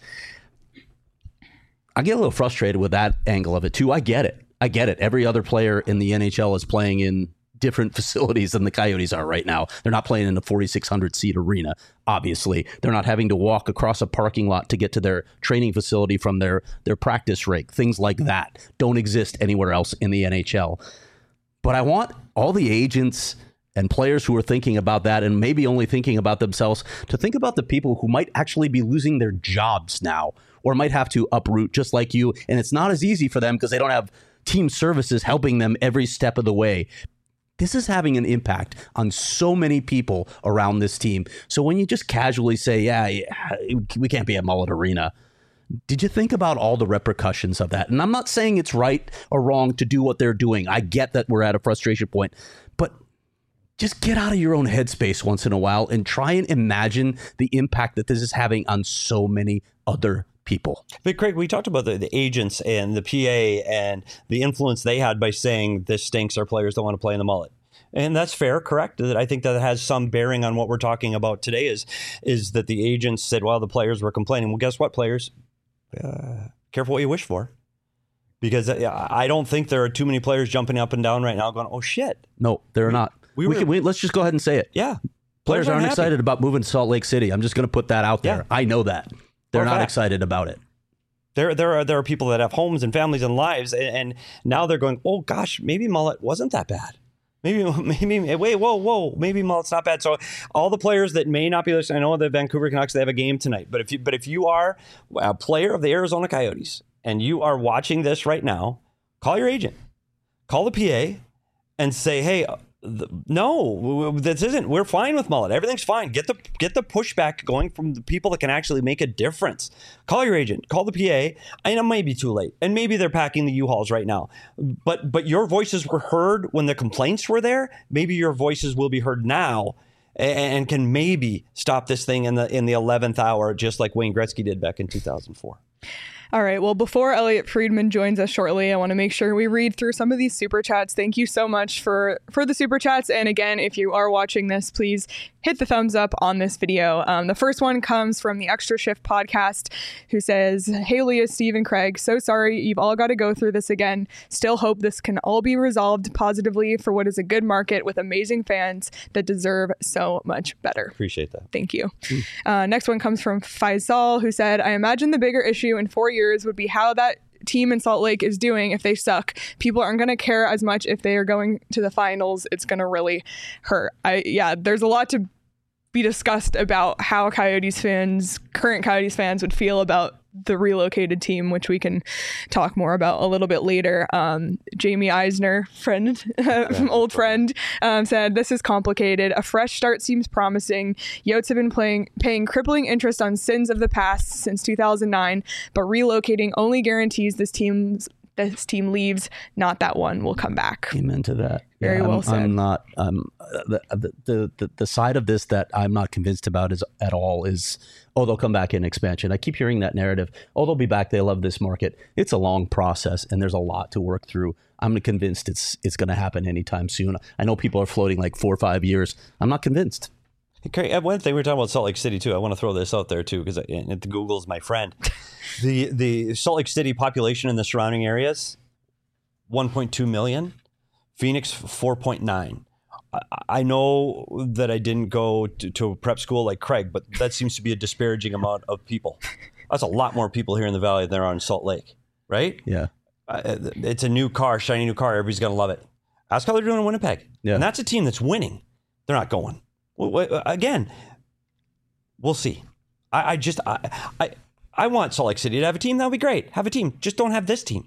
I get a little frustrated with that angle of it too. I get it. Every other player in the NHL is playing in different facilities than the Coyotes are right now. They're not playing in a 4,600 seat arena. Obviously, they're not having to walk across a parking lot to get to their training facility from their practice rink. Things like that don't exist anywhere else in the NHL. But I want all the agents and players who are thinking about that and maybe only thinking about themselves to think about the people who might actually be losing their jobs now or might have to uproot just like you. And it's not as easy for them because they don't have team services helping them every step of the way. This is having an impact on so many people around this team. So when you just casually say, yeah, we can't be at Mullet Arena, did you think about all the repercussions of that? And I'm not saying it's right or wrong to do what they're doing. I get that we're at a frustration point, but just get out of your own headspace once in a while and try and imagine the impact that this is having on so many other people. But Craig, we talked about the agents and the PA and the influence they had by saying this stinks, our players don't want to play in the Mullet. And that's fair, correct? I think that has some bearing on what we're talking about today is that the agents said, well, the players were complaining. Well, guess what, players? Careful what you wish for. Because I don't think there are too many players jumping up and down right now going, oh, shit. No, they're not. Let's just go ahead and say it. Yeah. Players aren't excited about moving to Salt Lake City. I'm just going to put that out there. Yeah. I know that. They're not excited about it. There are people that have homes and families and lives, and now they're going, oh gosh, maybe Mullet wasn't that bad. Maybe wait, whoa, maybe Mullet's not bad. So all the players that may not be listening, I know the Vancouver Canucks, they have a game tonight, but if you are a player of the Arizona Coyotes and you are watching this right now, call your agent, call the PA, and say, hey. No, this isn't. We're fine with Mullet. Everything's fine. Get the pushback going from the people that can actually make a difference. Call your agent. Call the PA. And it might be too late. And maybe they're packing the U-Hauls right now. But your voices were heard when the complaints were there. Maybe your voices will be heard now and can maybe stop this thing in the 11th hour, just like Wayne Gretzky did back in 2004. All right. Well, before Elliot Friedman joins us shortly, I want to make sure we read through some of these super chats. Thank you so much for the super chats. And again, if you are watching this, please hit the thumbs up on this video. The first one comes from the Extra Shift podcast, who says, "Hey, Leah, Steve, and Craig, so sorry you've all got to go through this again. Still hope this can all be resolved positively for what is a good market with amazing fans that deserve so much better." Appreciate that. Thank you. Next one comes from Faisal, who said, "I imagine the bigger issue in 4 years would be how that team in Salt Lake is doing if they suck. People aren't going to care as much if they are going to the finals. It's going to really hurt. There's a lot to be discussed about how current Coyotes fans would feel about the relocated team, which we can talk more about a little bit later. Jamie Eisner, old friend, said, "This is complicated. A fresh start seems promising. Yotes have been paying crippling interest on sins of the past since 2009, but relocating only guarantees this team leaves, not that one will come back." Amen to that. Very well said. I'm not the side of this that I'm not convinced about at all is, they'll come back in expansion. I keep hearing that narrative. They'll be back. They love this market. It's a long process and there's a lot to work through. I'm convinced it's going to happen anytime soon. I know people are floating like 4 or 5 years. I'm not convinced. Okay, one thing we were talking about Salt Lake City too. I want to throw this out there too because Google's my friend. The Salt Lake City population in the surrounding areas, 1.2 million. Phoenix, 4.9. I know that I didn't go to a prep school like Craig, but that seems to be a disparaging amount of people. That's a lot more people here in the Valley than there are in Salt Lake, right? Yeah. It's a new car, shiny new car. Everybody's going to love it. Ask how they're doing in Winnipeg. Yeah. And that's a team that's winning. They're not going. Again, we'll see. I want Salt Lake City to have a team. That would be great. Have a team. Just don't have this team.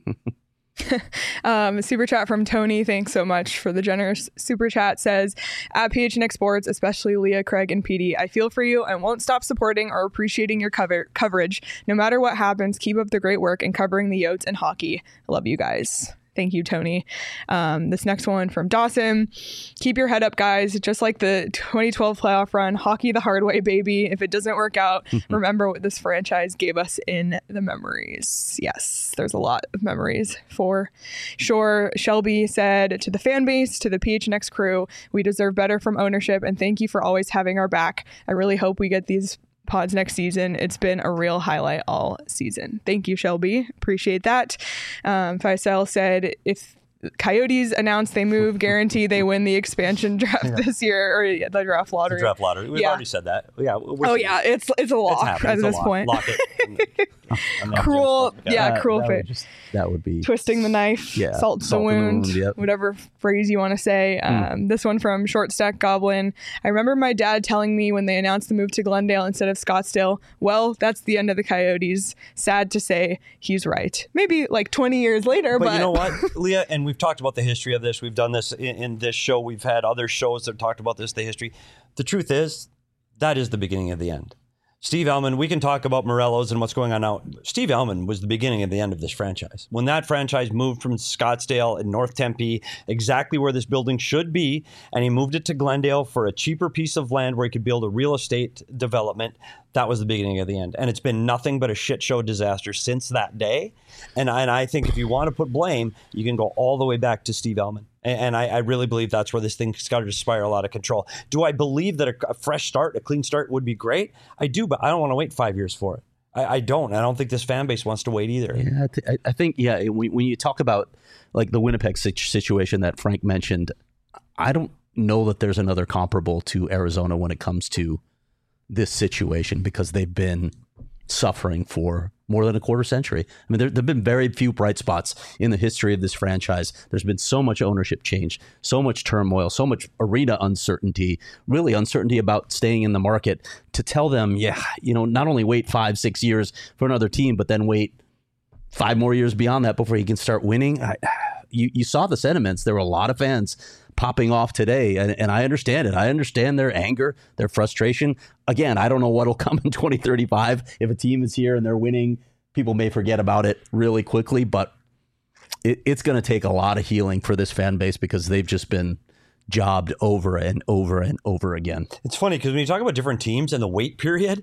Super chat from Tony. Thanks so much for the generous super chat. Says, at PHNX Sports, especially Leah, Craig, and PD, I feel for you and won't stop supporting or appreciating your coverage. No matter what happens, keep up the great work in covering the Yotes and hockey. I love you guys. Thank you, Tony. This next one from Dawson. Keep your head up, guys. Just like the 2012 playoff run, hockey the hard way, baby. If it doesn't work out, remember what this franchise gave us in the memories. Yes, there's a lot of memories for sure. Shelby said, to the fan base, to the PHNX crew, we deserve better from ownership, and thank you for always having our back. I really hope we get these pods next season. It's been a real highlight all season. Thank you, Shelby. Appreciate that. Faisal said, if Coyotes announce they move, guarantee they win the expansion draft this year, or the draft lottery. The draft lottery. We've already said that. Yeah. It's a lock at this point. Lock it. Cruel fate. That would be twisting the knife, salt the wound, whatever phrase you want to say. This one from Short Stack Goblin. I remember my dad telling me when they announced the move to Glendale instead of Scottsdale, well, that's the end of the Coyotes. Sad to say, he's right. Maybe like 20 years later, but you know what, Leah, and we've talked about the history of this. We've done this in this show. We've had other shows that have talked about this, the history. The truth is, that is the beginning of the end. Steve Ellman, we can talk about Morelos and what's going on now. Steve Ellman was the beginning of the end of this franchise. When that franchise moved from Scottsdale and North Tempe, exactly where this building should be, and he moved it to Glendale for a cheaper piece of land where he could build a real estate development, that was the beginning of the end. And it's been nothing but a shit show disaster since that day. And I think if you want to put blame, you can go all the way back to Steve Ellman. And I really believe that's where this thing's got to spiral out of control. Do I believe that a fresh start, a clean start would be great? I do, but I don't want to wait 5 years for it. I don't. I don't think this fan base wants to wait either. Yeah, I think, when you talk about like the Winnipeg situation that Frank mentioned, I don't know that there's another comparable to Arizona when it comes to this situation, because they've been suffering for more than a quarter century. I mean, there have been very few bright spots in the history of this franchise. There's been so much ownership change, so much turmoil, so much arena uncertainty, really uncertainty about staying in the market, to tell them, not only wait 5-6 years for another team, but then wait 5 more years beyond that before you can start winning. You saw the sentiments. There were a lot of fans popping off today, and I understand it. I understand their anger, their frustration. Again, I don't know what'll come in 2035. If a team is here and they're winning, people may forget about it really quickly, but it's going to take a lot of healing for this fan base, because they've just been jobbed over and over and over again. It's funny because when you talk about different teams and the wait period,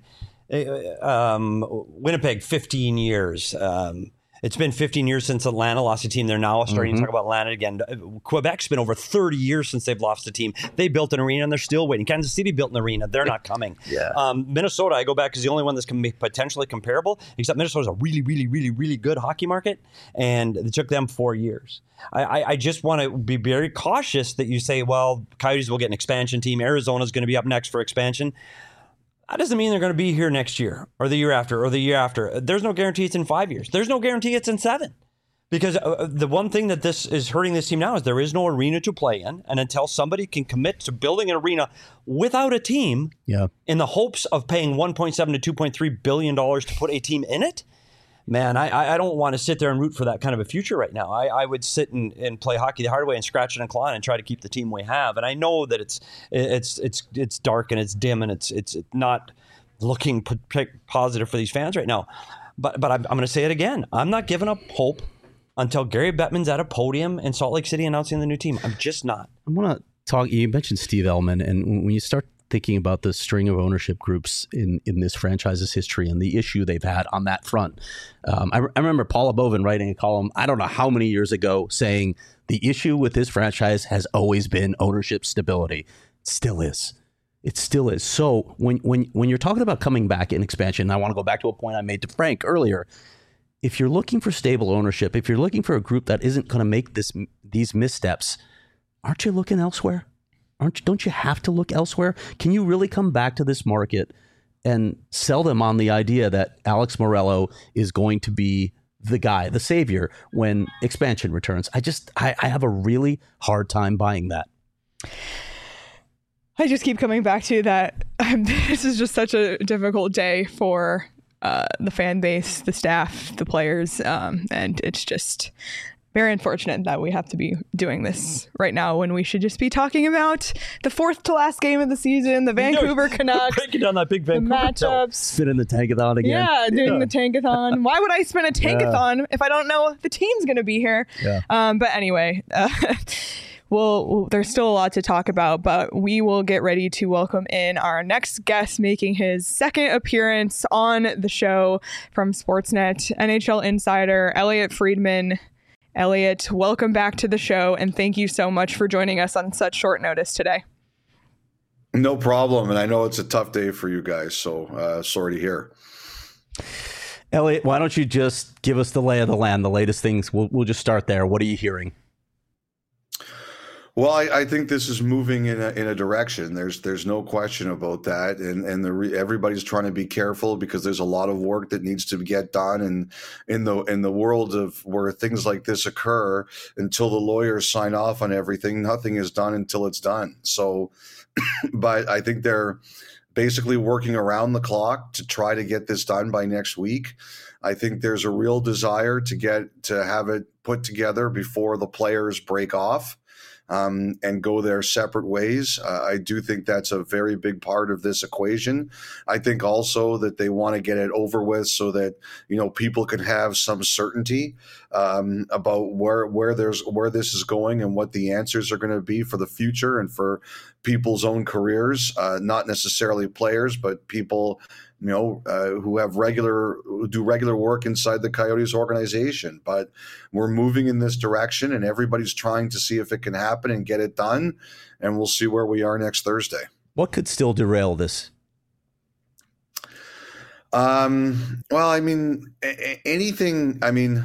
Winnipeg, 15 years. It's been 15 years since Atlanta lost a team. They're now starting to talk about Atlanta again. Quebec's been over 30 years since they've lost a team. They built an arena and they're still waiting. Kansas City built an arena. They're not coming. Minnesota, I go back, is the only one that's potentially comparable, except Minnesota's a really, really, really, really good hockey market, and it took them 4 years. I just want to be very cautious that you say, well, Coyotes will get an expansion team. Arizona's going to be up next for expansion. That doesn't mean they're going to be here next year or the year after or the year after. There's no guarantee it's in 5 years. There's no guarantee it's in 7. Because the one thing that this is hurting this team now is there is no arena to play in. And until somebody can commit to building an arena without a team in the hopes of paying $1.7 to $2.3 billion to put a team in it, man, I don't want to sit there and root for that kind of a future right now. I would sit and play hockey the hard way and scratch it and claw and try to keep the team we have. And I know that it's dark and it's dim and it's not looking positive for these fans right now. But I'm going to say it again. I'm not giving up hope until Gary Bettman's at a podium in Salt Lake City announcing the new team. I'm just not. I want to talk. You mentioned Steve Ellman, and when you start thinking about the string of ownership groups in this franchise's history and the issue they've had on that front, I remember Paula Bovin writing a column, I don't know how many years ago, saying the issue with this franchise has always been ownership stability. It still is. It still is. So when you're talking about coming back in expansion, I want to go back to a point I made to Frank earlier. If you're looking for stable ownership, if you're looking for a group that isn't going to make these missteps, aren't you looking elsewhere? Don't you have to look elsewhere? Can you really come back to this market and sell them on the idea that Alex Morello is going to be the guy, the savior, when expansion returns? I have a really hard time buying that. I just keep coming back to that. This is just such a difficult day for the fan base, the staff, the players, and it's just very unfortunate that we have to be doing this right now when we should just be talking about the fourth to last game of the season, the Vancouver Canucks, breaking down that big Vancouver matchups, spinning the tankathon again. Yeah, doing the tankathon. Why would I spin a tankathon if I don't know the team's going to be here? But anyway. Well, there's still a lot to talk about, but we will get ready to welcome in our next guest making his second appearance on the show from Sportsnet, NHL insider Elliotte Friedman. Elliotte, welcome back to the show, and thank you so much for joining us on such short notice today. No problem, and I know it's a tough day for you guys, so sorry to hear. Elliotte, why don't you just give us the lay of the land, the latest things? We'll just start there. What are you hearing? Well, I think this is moving in a direction. There's no question about that, and everybody's trying to be careful because there's a lot of work that needs to get done. And in the world of where things like this occur, until the lawyers sign off on everything, nothing is done until it's done. So, but I think they're basically working around the clock to try to get this done by next week. I think there's a real desire to have it put together before the players break off. And go their separate ways. I do think that's a very big part of this equation. I think also that they want to get it over with so that, people can have some certainty about where this is going and what the answers are going to be for the future and for people's own careers, not necessarily players, but people who do regular work inside the Coyotes organization. But we're moving in this direction, and everybody's trying to see if it can happen and get it done. And we'll see where we are next Thursday. What could still derail this? Anything.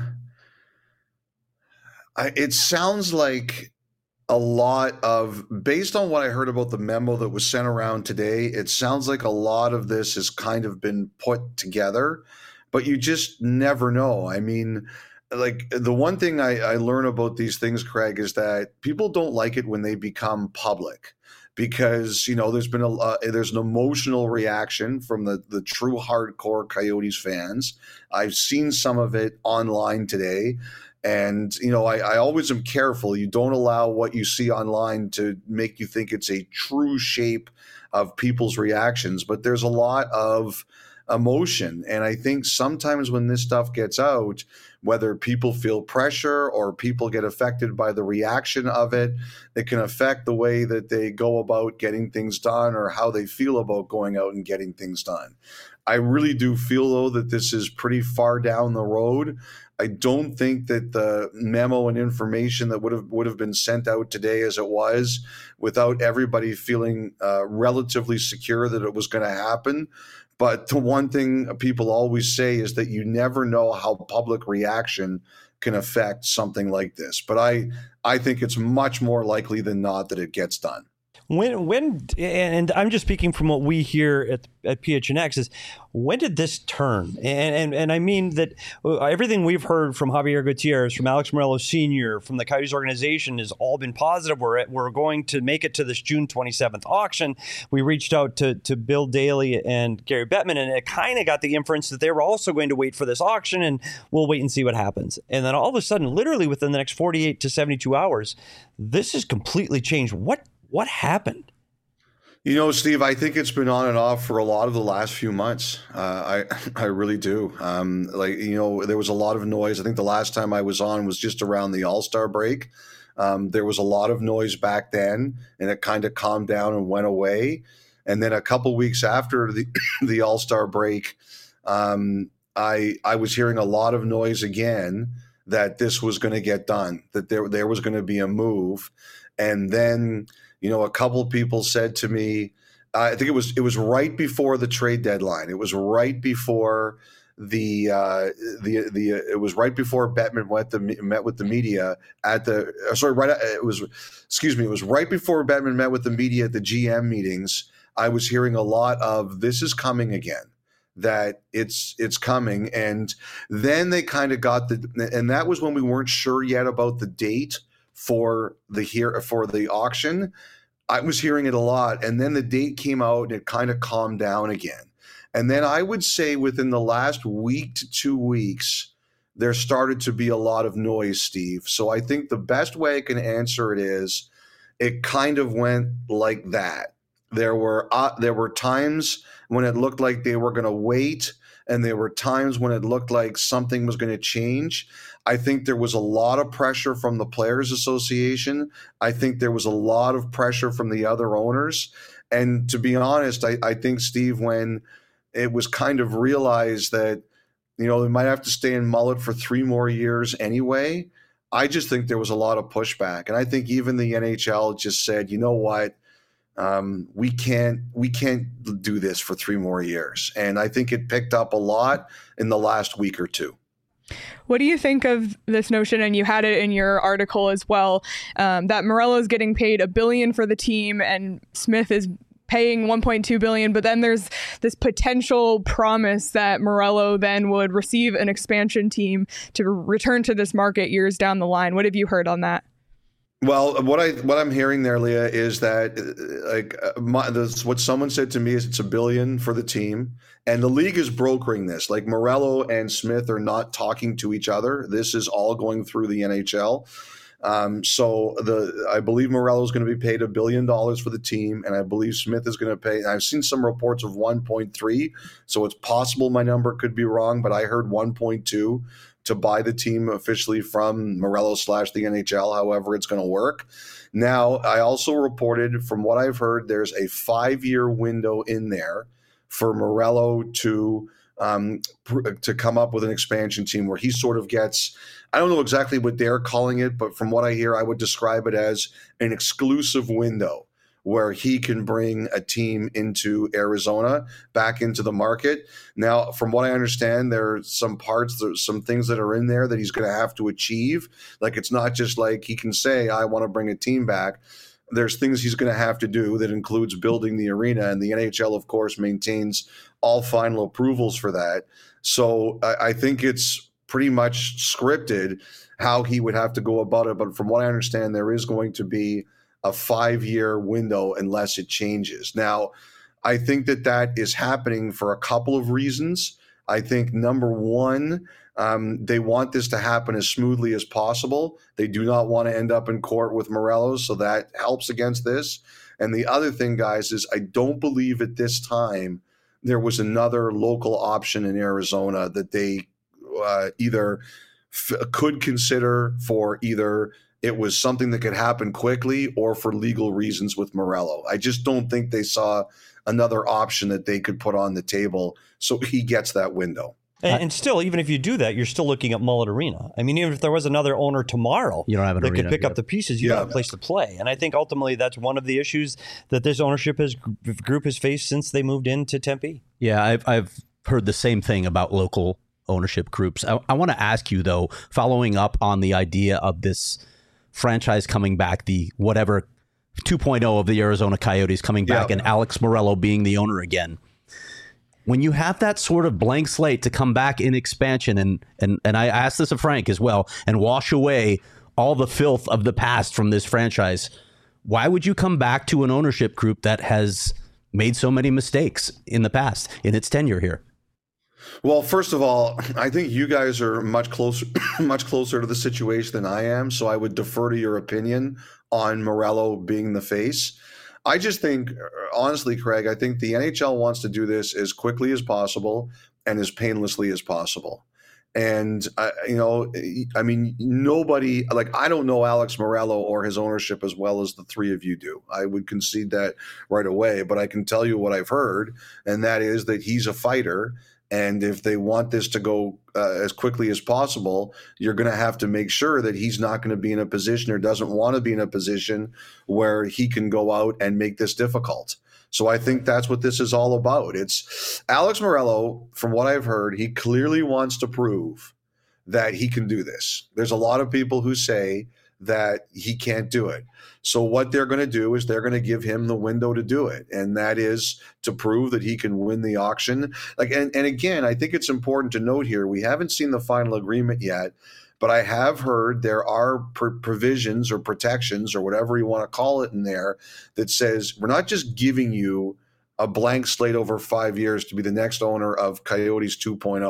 It sounds like a lot of, based on what I heard about the memo that was sent around today, it sounds like a lot of this has kind of been put together, but you just never know. Like the one thing I learn about these things, Craig, is that people don't like it when they become public because, there's been there's an emotional reaction from the true hardcore Coyotes fans. I've seen some of it online today. And, I always am careful. You don't allow what you see online to make you think it's a true shape of people's reactions. But there's a lot of emotion. And I think sometimes when this stuff gets out, whether people feel pressure or people get affected by the reaction of it, it can affect the way that they go about getting things done or how they feel about going out and getting things done. I really do feel, though, that this is pretty far down the road. I don't think that the memo and information that would have been sent out today as it was, without everybody feeling relatively secure that it was going to happen. But the one thing people always say is that you never know how public reaction can affect something like this. But I think it's much more likely than not that it gets done. When and I'm just speaking from what we hear at PHNX is, when did this turn? And I mean that everything we've heard from Javier Gutierrez, from Alex Morelos Sr., from the Coyotes organization has all been positive. We're going to make it to this June 27th auction. We reached out to Bill Daly and Gary Bettman, and it kind of got the inference that they were also going to wait for this auction, and we'll wait and see what happens. And then all of a sudden, literally within the next 48 to 72 hours, this has completely changed. What happened? You know, Steve, I think it's been on and off for a lot of the last few months. I really do. There was a lot of noise. I think the last time I was on was just around the All-Star break. There was a lot of noise back then, and it kind of calmed down and went away. And then a couple weeks after the All-Star break, I was hearing a lot of noise again that this was going to get done, that there was going to be a move. And then, a couple of people said to me, I think it was right before the trade deadline. It was right before it was right before Bettman met with the media it was right before Bettman met with the media at the GM meetings. I was hearing a lot of, this is coming again, that it's coming. And then they kind of and that was when we weren't sure yet about the date for the auction. I was hearing it a lot, and then the date came out and it kind of calmed down again. And then I would say within the last week to 2 weeks, there started to be a lot of noise, Steve. So I think the best way I can answer it is, it kind of went like that. There were times when it looked like they were going to wait, and there were times when it looked like something was going to change. I think there was a lot of pressure from the Players Association. I think there was a lot of pressure from the other owners. And to be honest, I think, Steve, when it was kind of realized that, they might have to stay in mullet for 3 more years anyway, I just think there was a lot of pushback. And I think even the NHL just said, you know what? We can't do this for 3 more years. And I think it picked up a lot in the last week or two. What do you think of this notion, and you had it in your article as well, that Morello is getting paid $1 billion for the team and Smith is paying $1.2 billion, but then there's this potential promise that Morello then would receive an expansion team to return to this market years down the line. What have you heard on that? Well, what I'm hearing there, Leah, is that what someone said to me is it's $1 billion for the team, and the league is brokering this. Like, Morello and Smith are not talking to each other. This is all going through the NHL. I believe Morello is going to be paid $1 billion for the team, and I believe Smith is going to pay. I've seen some reports of 1.3, so it's possible my number could be wrong, but I heard 1.2. to buy the team officially from Morello / the NHL, however it's going to work. Now, I also reported, from what I've heard, there's a 5-year window in there for Morello to come up with an expansion team where he sort of gets, I don't know exactly what they're calling it, but from what I hear, I would describe it as an exclusive window where he can bring a team into Arizona, back into the market. Now, from what I understand, there's some things that are in there that he's going to have to achieve. Like, it's not just like he can say, I want to bring a team back. There's things he's going to have to do that includes building the arena, and the NHL, of course, maintains all final approvals for that. So I think it's pretty much scripted how he would have to go about it. But from what I understand, there is going to be a 5-year window unless it changes. Now, I think that is happening for a couple of reasons. I think, number one, they want this to happen as smoothly as possible. They do not want to end up in court with Morello, so that helps against this. And the other thing, guys, is I don't believe at this time there was another local option in Arizona that they either could consider for either it was something that could happen quickly or for legal reasons with Morello. I just don't think they saw another option that they could put on the table so he gets that window. And still, even if you do that, you're still looking at Mullet Arena. I mean, even if there was another owner tomorrow you don't have an that arena, could pick up the pieces, you don't have a place to play. And I think ultimately that's one of the issues that this ownership group has faced since they moved into Tempe. Yeah, I've heard the same thing about local ownership groups. I want to ask you, though, following up on the idea of this franchise coming back, the whatever 2.0 of the Arizona Coyotes coming back and Alex Morello being the owner again. When you have that sort of blank slate to come back in expansion, and I asked this of Frank as well, and wash away all the filth of the past from this franchise, why would you come back to an ownership group that has made so many mistakes in the past in its tenure here? Well, first of all, I think you guys are much closer to the situation than I am, so I would defer to your opinion on Morello being the face. I just think, honestly, Craig, I think the NHL wants to do this as quickly as possible and as painlessly as possible. And, I mean, nobody, like, I don't know Alex Morello or his ownership as well as the three of you do. I would concede that right away, but I can tell you what I've heard, and that is that he's a fighter. And if they want this to go as quickly as possible, you're going to have to make sure that he's not going to be in a position or doesn't want to be in a position where he can go out and make this difficult. So I think that's what this is all about. It's Alex Morello, from what I've heard, he clearly wants to prove that he can do this. There's a lot of people who say that he can't do it. So what they're going to do is they're going to give him the window to do it. And that is to prove that he can win the auction. And again, I think it's important to note here, we haven't seen the final agreement yet, but I have heard there are provisions or protections or whatever you want to call it in there that says we're not just giving you a blank slate over 5 years to be the next owner of Coyotes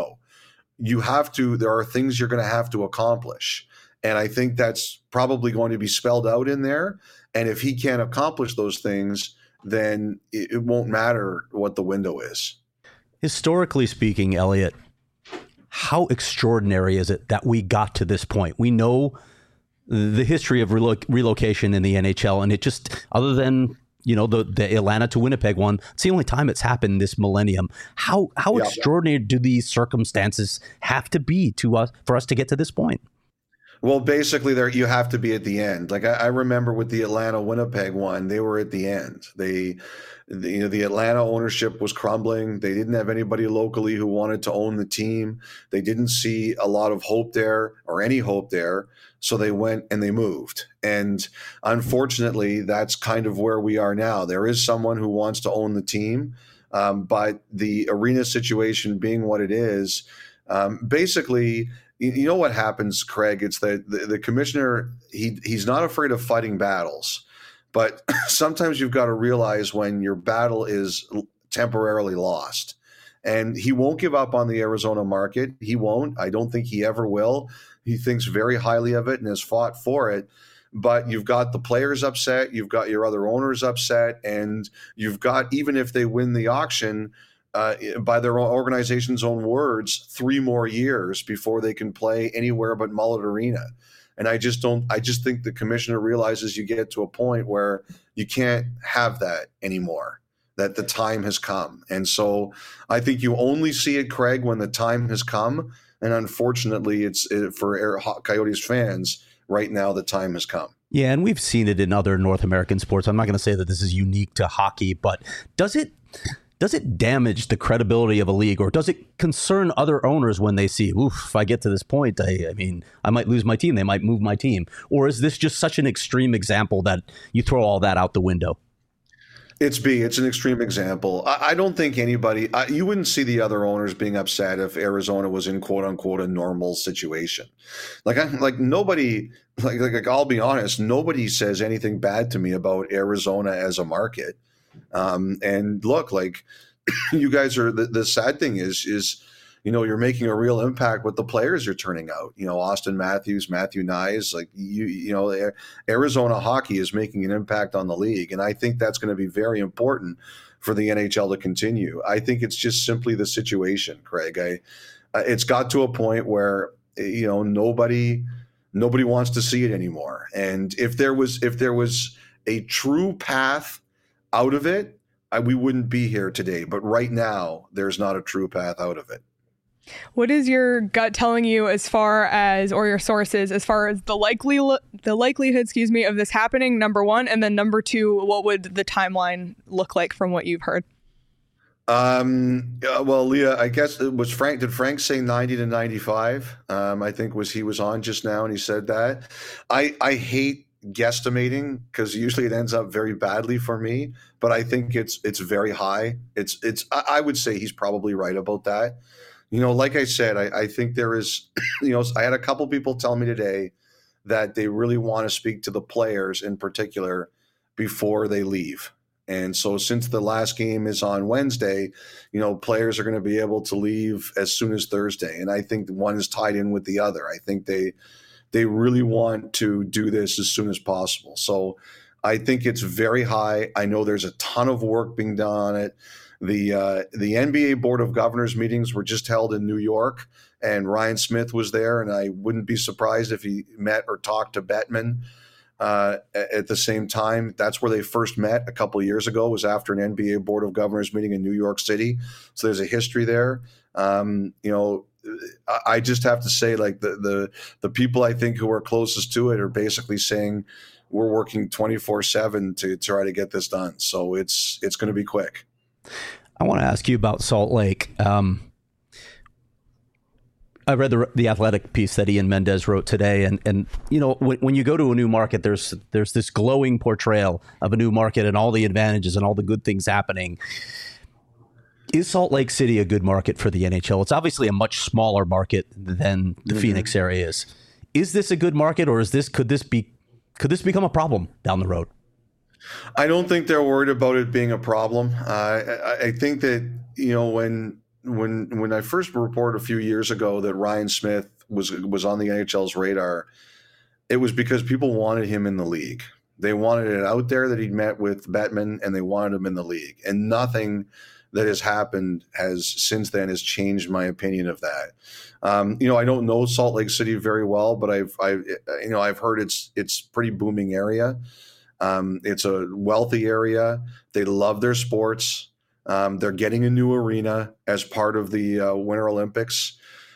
2.0. There are things you're going to have to accomplish. And I think that's probably going to be spelled out in there. And if he can't accomplish those things, then it won't matter what the window is. Historically speaking, Elliot, how extraordinary is it that we got to this point? We know the history of relocation in the NHL, and it just, other than the Atlanta to Winnipeg one, it's the only time it's happened this millennium. How extraordinary do these circumstances have to be for us to get to this point? Well, basically, you have to be at the end. Like I remember with the Atlanta Winnipeg one, they were at the end. The Atlanta ownership was crumbling. They didn't have anybody locally who wanted to own the team. They didn't see a lot of hope there or any hope there. So they went and they moved. And unfortunately, that's kind of where we are now. There is someone who wants to own the team, but the arena situation being what it is, basically. You know what happens, Craig? It's that the commissioner, he's not afraid of fighting battles, but sometimes you've got to realize when your battle is temporarily lost. And he won't give up on the Arizona market. He won't. I don't think he ever will. He thinks very highly of it and has fought for it. But you've got the players upset. You've got your other owners upset. And you've got, even if they win the auction, by their organization's own words, 3 more years before they can play anywhere but Mullet Arena. And I just think the commissioner realizes you get to a point where you can't have that anymore, that the time has come. And so I think you only see it, Craig, when the time has come. And unfortunately, for Coyotes fans right now, the time has come. Yeah, and we've seen it in other North American sports. I'm not going to say that this is unique to hockey, but does it damage the credibility of a league, or does it concern other owners when they see, if I get to this point, I might lose my team, they might move my team? Or is this just such an extreme example that you throw all that out the window? It's an extreme example. I don't think anybody, you wouldn't see the other owners being upset if Arizona was in quote unquote a normal situation. Nobody, I'll be honest, nobody says anything bad to me about Arizona as a market. And look, you guys are, the sad thing is, you're making a real impact with the players you're turning out. Austin Matthews, Matthew Knies, Arizona hockey is making an impact on the league. And I think that's going to be very important for the NHL to continue. I think it's just simply the situation, Craig. It's got to a point where, nobody wants to see it anymore. And if there was a true path out of it, we wouldn't be here today. But right now, there's not a true path out of it. What is your gut telling you or your sources, as far as the likelihood, of this happening, number one, and then number two, what would the timeline look like from what you've heard? Well, Leah, I guess it was Frank. Did Frank say 90 to 95? I think he was on just now and he said that. I hate guesstimating because usually it ends up very badly for me, but I think it's very high. I would say he's probably right about that. Like I said, I think there is, I had a couple people tell me today that they really want to speak to the players in particular before they leave. And so since the last game is on Wednesday, players are going to be able to leave as soon as Thursday. And I think one is tied in with the other. I think they really want to do this as soon as possible. So I think it's very high. I know there's a ton of work being done on it. The NBA Board of Governors meetings were just held in New York, and Ryan Smith was there, and I wouldn't be surprised if he met or talked to Bettman at the same time. That's where they first met a couple of years ago, was after an NBA Board of Governors meeting in New York City. So there's a history there. I just have to say, like, the people I think who are closest to it are basically saying we're working 24/7 to try to get this done. So it's going to be quick. I want to ask you about Salt Lake. I read the Athletic piece that Ian Mendez wrote today, and when you go to a new market, there's this glowing portrayal of a new market and all the advantages and all the good things happening. Is Salt Lake City a good market for the NHL? It's obviously a much smaller market than the Phoenix area is. Is this a good market, or could this become a problem down the road? I don't think they're worried about it being a problem. I think that when I first reported a few years ago that Ryan Smith was on the NHL's radar, it was because people wanted him in the league. They wanted it out there that he'd met with Bettman, and they wanted him in the league. And nothing that has happened since then has changed my opinion of that. I don't know Salt Lake City very well, but I've heard it's pretty booming area. It's a wealthy area. They love their sports. They're getting a new arena as part of the Winter Olympics.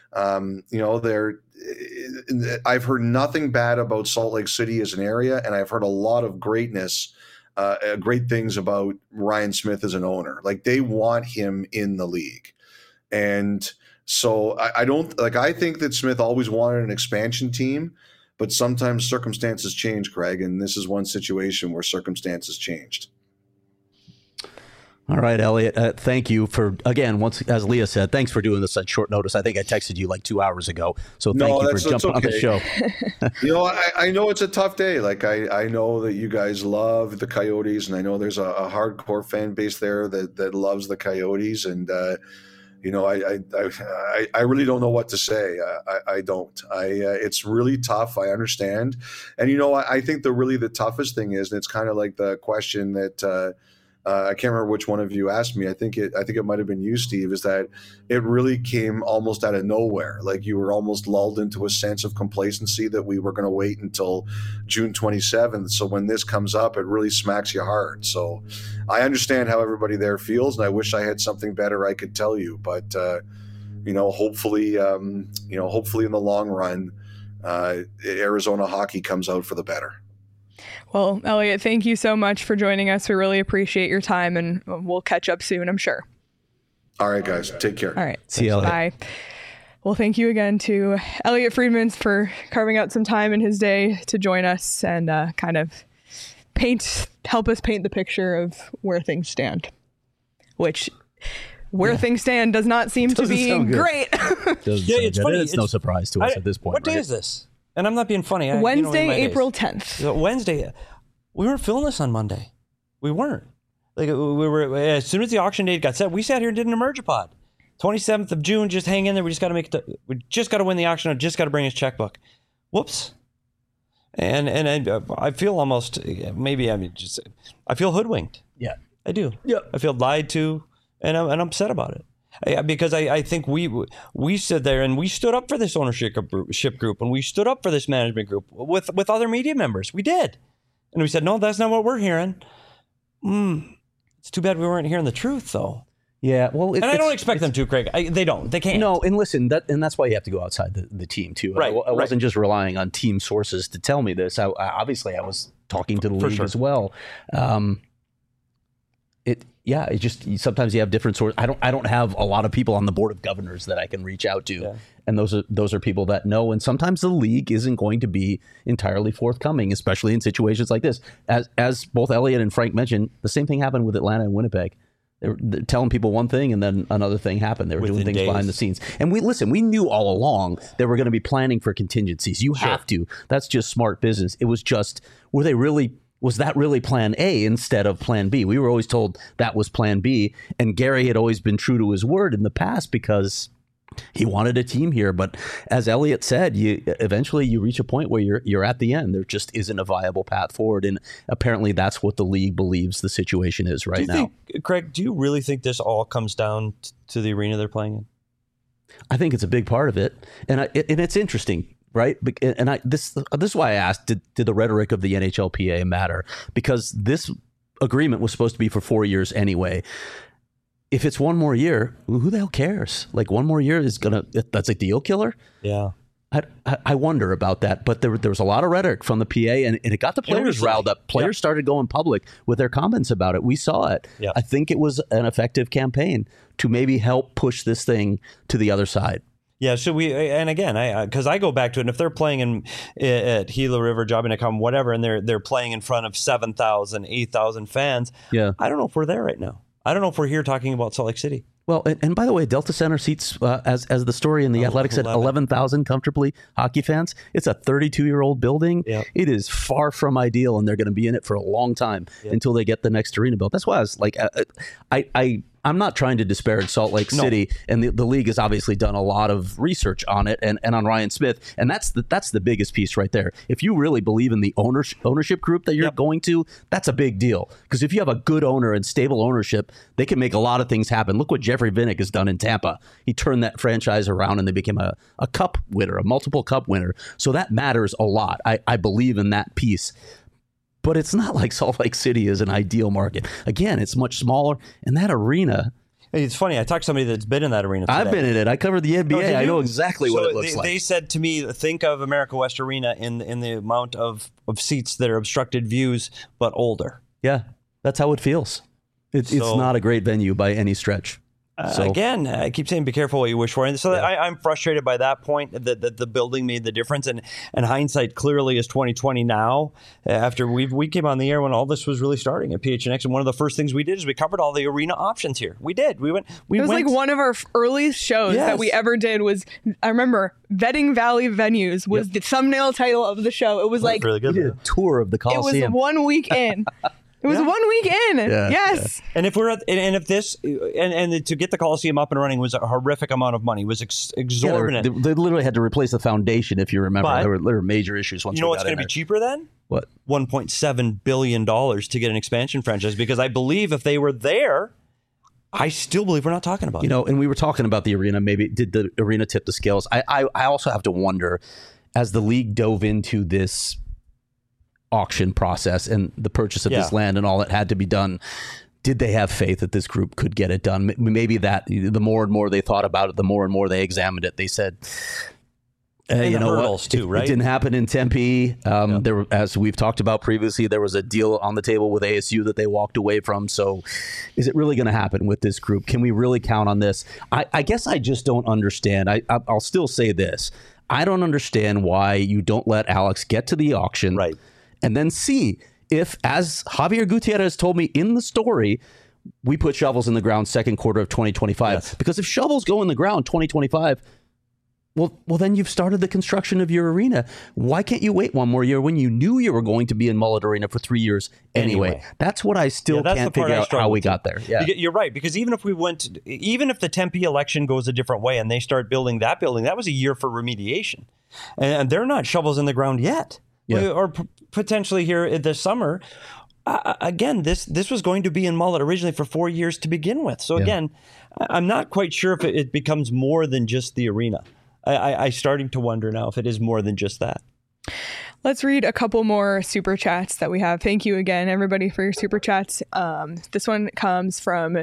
I've heard nothing bad about Salt Lake City as an area, and I've heard a lot of great things about Ryan Smith as an owner. Like, they want him in the league. And so I think that Smith always wanted an expansion team, but sometimes circumstances change, Craig, and this is one situation where circumstances changed. All right, Elliot, thank you for, again, as Leah said, thanks for doing this at short notice. I think I texted you like 2 hours ago, so thank you for jumping on the show. I know it's a tough day. Like, I know that you guys love the Coyotes, and I know there's a hardcore fan base there that loves the Coyotes, and I really don't know what to say. I don't. It's really tough. I understand. And, I think the toughest thing is, and it's kind of like the question that I can't remember which one of you asked me. I think it might have been you, Steve, is that it really came almost out of nowhere. Like, you were almost lulled into a sense of complacency that we were going to wait until June 27th. So when this comes up, it really smacks you hard. So I understand how everybody there feels, and I wish I had something better I could tell you. But hopefully in the long run, Arizona hockey comes out for the better. Well, Elliot, thank you so much for joining us. We really appreciate your time, and we'll catch up soon, I'm sure. All right, guys. Take care. All right. See you, Elliot. Bye. Well, thank you again to Elliot Friedmans for carving out some time in his day to join us and kind of help us paint the picture of where things stand, which things stand does not seem to be great. It's funny. It's no surprise to us at this point. What day is this? And I'm not being funny. Wednesday, April 10th. Wednesday. We weren't filming this on Monday. We weren't. Like, we were, as soon as the auction date got set, we sat here and did an Emergipod. 27th of June, just hang in there. We just got to we just got to win the auction. I just got to bring his checkbook. Whoops. And I feel almost, I feel hoodwinked. Yeah. I do. Yeah. I feel lied to, and I'm upset about it. Because I think we stood there and we stood up for this ownership group, and we stood up for this management group with other media members. We did. And we said, no, that's not what we're hearing. It's too bad we weren't hearing the truth, though. Yeah, well, I don't expect them to, Craig. They don't. They can't. No, and listen, that's why you have to go outside the team too. Right. I wasn't just relying on team sources to tell me this. I obviously was talking to the league as well. yeah, it just sometimes you have different sources. I don't have a lot of people on the board of governors that I can reach out to, and those are people that know. And sometimes the league isn't going to be entirely forthcoming, especially in situations like this. As both Elliot and Frank mentioned, the same thing happened with Atlanta and Winnipeg. They're telling people one thing, and then another thing happened. They were doing things behind the scenes, and we knew all along that we're going to be planning for contingencies. You have to. That's just smart business. It was just, was that really plan A instead of plan B? We were always told that was plan B. And Gary had always been true to his word in the past because he wanted a team here. But as Elliot said, eventually you reach a point where you're at the end. There just isn't a viable path forward. And apparently that's what the league believes the situation is right now. Craig, do you really think this all comes down to the arena they're playing in? I think it's a big part of it. And it's interesting. Right. And this is why I asked, did the rhetoric of the NHLPA matter? Because this agreement was supposed to be for 4 years anyway. If it's one more year, who the hell cares? Like, one more year that's a deal killer. Yeah. I wonder about that. But there was a lot of rhetoric from the PA, and it got the players riled up. Players started going public with their comments about it. We saw it. Yeah. I think it was an effective campaign to maybe help push this thing to the other side. Yeah, so and again, because I go back to it, and if they're playing at Gila River, Jobbing.com, whatever, and they're playing in front of 7,000, 8,000 fans, I don't know if we're there right now. I don't know if we're here talking about Salt Lake City. Well, and by the way, Delta Center seats, as the story in the Athletic said, 11,000 comfortably hockey fans. It's a 32-year-old building. Yep. It is far from ideal, and they're going to be in it for a long time until they get the next arena built. That's why I was like, I'm not trying to disparage Salt Lake City, and the league has obviously done a lot of research on it and on Ryan Smith, and that's the biggest piece right there. If you really believe in the ownership group that you're going to, that's a big deal. Because if you have a good owner and stable ownership, they can make a lot of things happen. Look what Jeffrey Vinnick has done in Tampa. He turned that franchise around, and they became a cup winner, a multiple cup winner. So that matters a lot. I believe in that piece. But it's not like Salt Lake City is an ideal market. Again, it's much smaller. And that arena... It's funny. I talked to somebody that's been in that arena today. I've been in it. I covered the NBA. I know exactly what it looks like. They said to me, think of America West Arena in the amount of seats that are obstructed views, but older. Yeah, that's how it feels. It's not a great venue by any stretch. Again, I keep saying be careful what you wish for. And so I'm frustrated by that point that the building made the difference. And hindsight clearly is 2020 now, after we came on the air when all this was really starting at PHNX. And one of the first things we did is we covered all the arena options here. We did. It was like one of our early shows that we ever did was, I remember, Vetting Valley Venues was the thumbnail title of the show. It was like really good. We did a tour of the Coliseum. It was 1 week in. It was 1 week in. Yes. Yeah. And if we're if this and to get the Coliseum up and running was a horrific amount of money. It was exorbitant. Yeah, they literally had to replace the foundation, if you remember. There were major issues once. You know what's going to be cheaper then? What? $1.7 billion to get an expansion franchise, because I believe if they were there, I still believe we're not talking about it. And we were talking about the arena. Maybe did the arena tip the scales? I also have to wonder, as the league dove into this auction process and the purchase of this land and all that had to be done, did they have faith that this group could get it done? Maybe that the more and more they thought about it, the more and more they examined it, they said, you know what? Too, right? It didn't happen in Tempe. There were, as we've talked about previously, there was a deal on the table with ASU that they walked away from. So is it really going to happen with this group? Can we really count on this? I guess I just don't understand. I'll still say this. I don't understand why you don't let Alex get to the auction. Right. And then see if, as Javier Gutierrez told me in the story, we put shovels in the ground second quarter of 2025. Yes. Because if shovels go in the ground 2025, well, then you've started the construction of your arena. Why can't you wait one more year when you knew you were going to be in Mullet Arena for 3 years anyway? That's what I still can't figure out how we got there. Yeah. You're right, because even if the Tempe election goes a different way and they start building, that was a year for remediation. And they're not shovels in the ground yet. Yeah. Or potentially here this summer. Again, this was going to be in Mullet originally for 4 years to begin with. So again, I'm not quite sure if it becomes more than just the arena. I'm starting to wonder now if it is more than just that. Let's read a couple more super chats that we have. Thank you again, everybody, for your super chats. This one comes from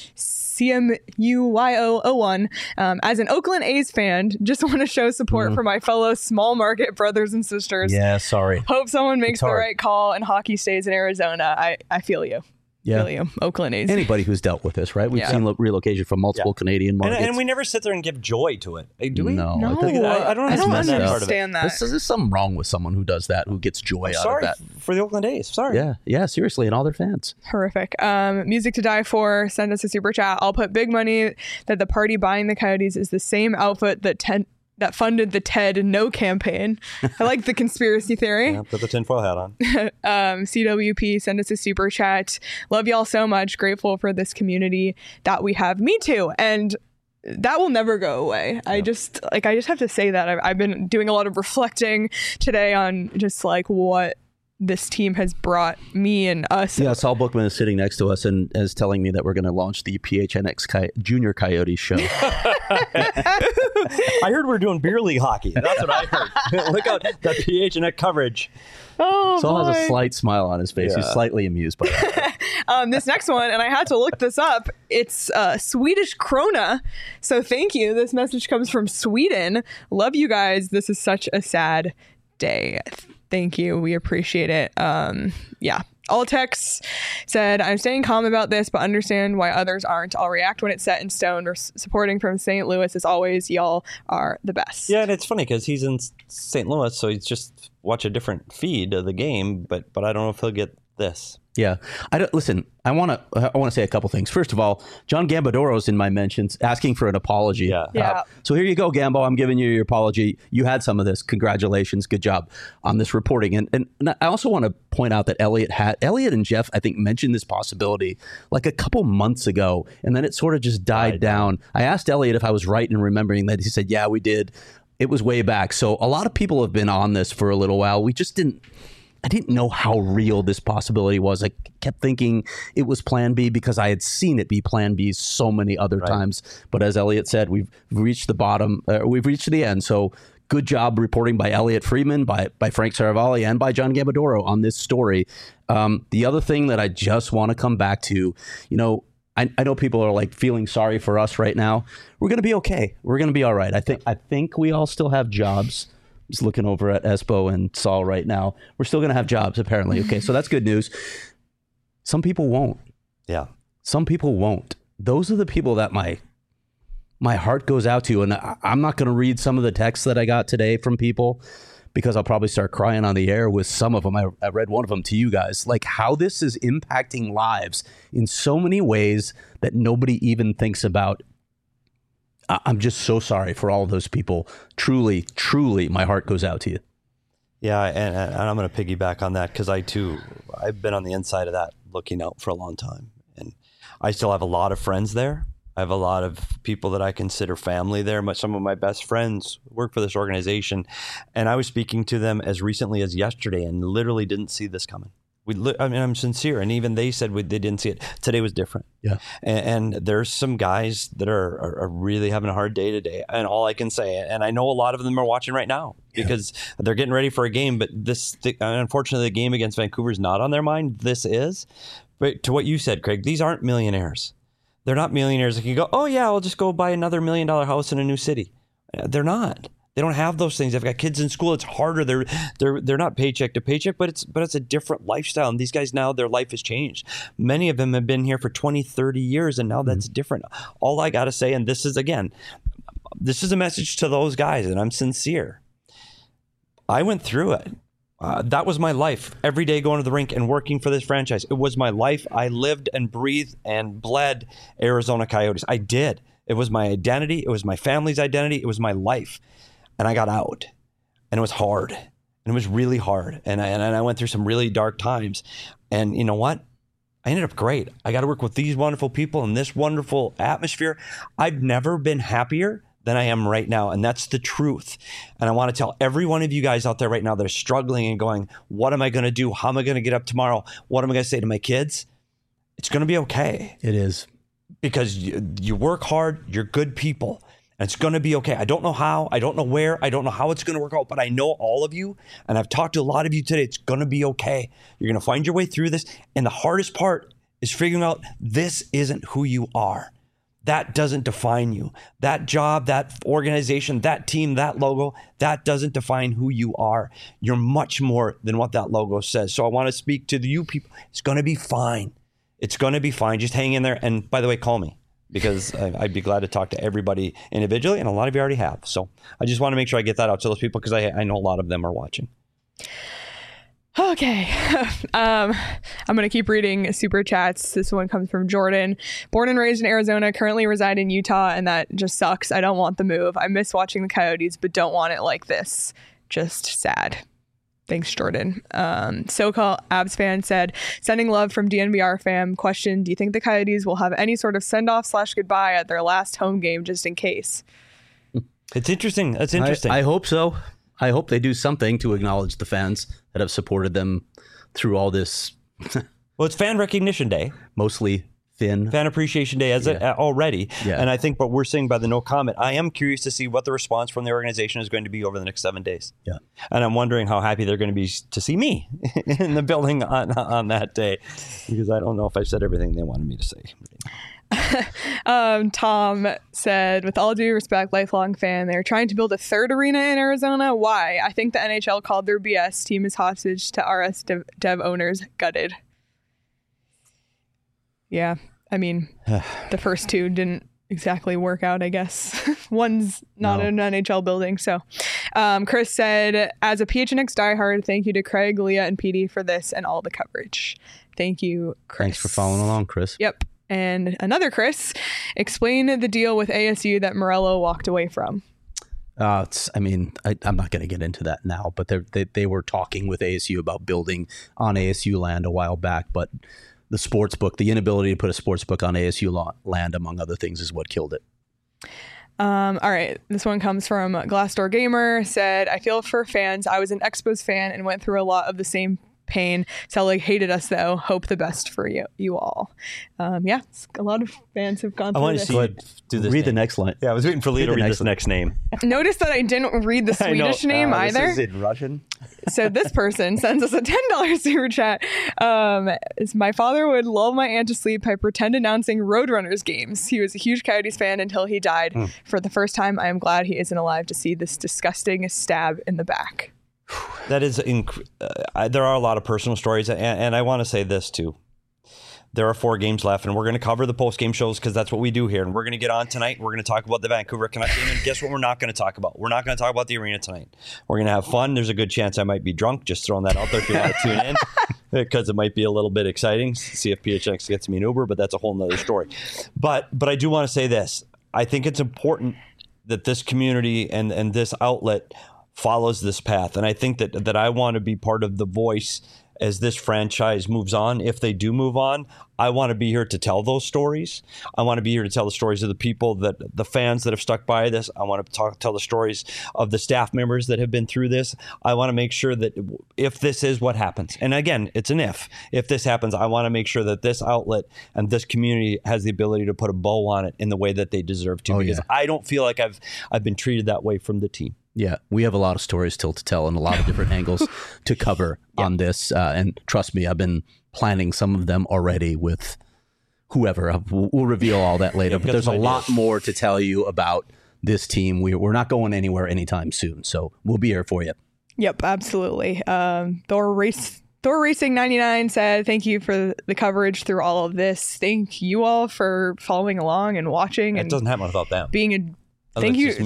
CMUYO01. As an Oakland A's fan, just want to show support for my fellow small market brothers and sisters. Yeah, sorry. Hope someone makes the right call and hockey stays in Arizona. I feel you. Yeah. Really, Oakland A's. Anybody who's dealt with this, right? We've Yeah. seen relocation from multiple Canadian markets. And we never sit there and give joy to it. Do we? No. No, I don't understand that part of it. understand that. There's something wrong with someone who does that, who gets joy out of Sorry that. for the Oakland A's. Sorry. Yeah, seriously, and all their fans. Horrific. Music to die for. Send us a super chat. I'll put big money that the party buying the Coyotes is the same outfit that funded the Ted No campaign. I like the conspiracy theory. Yeah, put the tinfoil hat on. CWP, send us a super chat. Love y'all so much. Grateful for this community that we have. Me too. And that will never go away. I just have to say that I've been doing a lot of reflecting today on just like what this team has brought me and us. Yeah, Saul Bookman is sitting next to us and is telling me that we're going to launch the PHNX Junior Coyotes show. I heard we're doing beer league hockey. That's what I heard. Look out, the PHNX coverage. Oh, Saul boy. has a slight smile on his face. Yeah. He's slightly amused by that. This next one, and I had to look this up. It's Swedish krona. So thank you. This message comes from Sweden. Love you guys. This is such a sad day. Thank you. We appreciate it. Yeah. Altex said, I'm staying calm about this, but understand why others aren't. I'll react when it's set in stone. We're supporting from St. Louis as always. Y'all are the best. Yeah, and it's funny because he's in St. Louis, so he's just watch a different feed of the game, but I don't know if he'll get this. Yeah, listen. I want to say a couple things. First of all, John Gambadoro's in my mentions asking for an apology. Yeah. So here you go, Gambo. I'm giving you your apology. You had some of this. Congratulations. Good job on this reporting. And I also want to point out that Elliot and Jeff, I think, mentioned this possibility like a couple months ago, and then it sort of just died down. I asked Elliot if I was right in remembering that. He said, yeah, we did. It was way back. So a lot of people have been on this for a little while. I didn't know how real this possibility was. I kept thinking it was Plan B because I had seen it be Plan B so many other times. But as Elliot said, we've reached the bottom. We've reached the end. So good job reporting by Elliot Friedman, by Frank Saravalli, and by John Gambadoro on this story. The other thing that I just want to come back to, I know people are like feeling sorry for us right now. We're going to be okay. We're going to be all right. I think we all still have jobs. Just looking over at Espo and Saul right now. We're still going to have jobs, apparently. Okay, so that's good news. Some people won't. Yeah. Some people won't. Those are the people that my heart goes out to. And I'm not going to read some of the texts that I got today from people because I'll probably start crying on the air with some of them. I read one of them to you guys. Like how this is impacting lives in so many ways that nobody even thinks about. I'm just so sorry for all of those people. Truly, truly, my heart goes out to you. Yeah, and I'm going to piggyback on that because I've been on the inside of that looking out for a long time. And I still have a lot of friends there. I have a lot of people that I consider family there. Some of my best friends work for this organization. And I was speaking to them as recently as yesterday and literally didn't see this coming. I'm sincere. And even they said they didn't see it. Today was different. Yeah. And there's some guys that are really having a hard day today. And all I can say, and I know a lot of them are watching right now because they're getting ready for a game. But unfortunately, the game against Vancouver is not on their mind. This is. But to what you said, Craig, these aren't millionaires. They're not millionaires that can go, oh, yeah, I'll just go buy another $1 million house in a new city. They're not. They don't have those things. They've got kids in school. It's harder. They're not paycheck to paycheck, but it's a different lifestyle. And these guys now, their life has changed. Many of them have been here for 20, 30 years, and now that's different. All I got to say, and this is a message to those guys, and I'm sincere. I went through it. That was my life. Every day going to the rink and working for this franchise. It was my life. I lived and breathed and bled Arizona Coyotes. I did. It was my identity. It was my family's identity. It was my life. And I got out, and it was hard, and it was really hard. And I went through some really dark times. And you know what? I ended up great. I got to work with these wonderful people in this wonderful atmosphere. I've never been happier than I am right now. And that's the truth. And I want to tell every one of you guys out there right now that are struggling and going, what am I going to do? How am I going to get up tomorrow? What am I going to say to my kids? It's going to be okay. It is. Because you work hard. You're good people. And it's going to be okay. I don't know how. I don't know where. I don't know how it's going to work out. But I know all of you. And I've talked to a lot of you today. It's going to be okay. You're going to find your way through this. And the hardest part is figuring out this isn't who you are. That doesn't define you. That job, that organization, that team, that logo, that doesn't define who you are. You're much more than what that logo says. So I want to speak to you people. It's going to be fine. It's going to be fine. Just hang in there. And by the way, call me, because I'd be glad to talk to everybody individually. And a lot of you already have. So I just want to make sure I get that out to those people, because I know a lot of them are watching. Okay. I'm going to keep reading super chats. This one comes from Jordan. Born and raised in Arizona, currently reside in Utah, and that just sucks. I don't want the move. I miss watching the Coyotes, but don't want it like this. Just sad. Thanks, Jordan. SoCal Abs fan said, sending love from DNVR fam. Question, do you think the Coyotes will have any sort of send-off / goodbye at their last home game, just in case? It's interesting. That's interesting. I hope so. I hope they do something to acknowledge the fans that have supported them through all this. Well, it's Fan Recognition Day. Mostly Fan Appreciation Day already. Yeah. And I think what we're seeing by the no comment, I am curious to see what the response from the organization is going to be over the next 7 days. Yeah. And I'm wondering how happy they're going to be to see me in the building on that day, because I don't know if I've said everything they wanted me to say. Tom said, with all due respect, lifelong fan, they're trying to build a third arena in Arizona. Why? I think the NHL called their BS. Team is hostage to RS Dev owners. Gutted. Yeah, I mean, the first two didn't exactly work out, I guess. One's not an NHL building. So Chris said, as a PHNX diehard, thank you to Craig, Leah, and PD for this and all the coverage. Thank you, Chris. Thanks for following along, Chris. Yep. And another Chris, explain the deal with ASU that Morello walked away from. I'm not going to get into that now, but they were talking with ASU about building on ASU land a while back, but the sports book, the inability to put a sports book on ASU land, among other things, is what killed it. All right. This one comes from Glassdoor Gamer. Said, I feel for fans. I was an Expos fan and went through a lot of the same pain. Selig hated us, though. Hope the best for you all. Yeah, a lot of fans have gone through this. I want to see you do this. Read the next line. Yeah, I was waiting for Lee to read this next name. Notice that I didn't read the Swedish name either. This is in Russian. So this person sends us a $10 super chat. My father would lull my aunt to sleep by pretend announcing Roadrunners games. He was a huge Coyotes fan until he died. For the first time, I am glad he isn't alive to see this disgusting stab in the back. That is, there are a lot of personal stories, and I want to say this too. There are 4 games left, and we're going to cover the post-game shows because that's what we do here. And we're going to get on tonight. We're going to talk about the Vancouver Canucks game. And guess what we're not going to talk about? We're not going to talk about the arena tonight. We're going to have fun. There's a good chance I might be drunk. Just throwing that out there if you want to tune in, because it might be a little bit exciting. See if PHX gets me an Uber, but that's a whole nother story. But I do want to say this. I think it's important that this community and this outlet follows this path. And I think that I want to be part of the voice as this franchise moves on. If they do move on, I want to be here to tell those stories. I want to be here to tell the stories of the people, the fans that have stuck by this. I want to tell the stories of the staff members that have been through this. I want to make sure that if this is what happens, and again, it's an if this happens, I want to make sure that this outlet and this community has the ability to put a bow on it in the way that they deserve to, because I don't feel like I've been treated that way from the team. Yeah, we have a lot of stories still to tell and a lot of different angles to cover on this. And trust me, I've been planning some of them already with whoever. We'll reveal all that later. But there's a lot more to tell you about this team. We're not going anywhere anytime soon. So we'll be here for you. Yep, absolutely. Thor Racing 99 said, thank you for the coverage through all of this. Thank you all for following along and watching. It doesn't happen without them. Being a Thank you to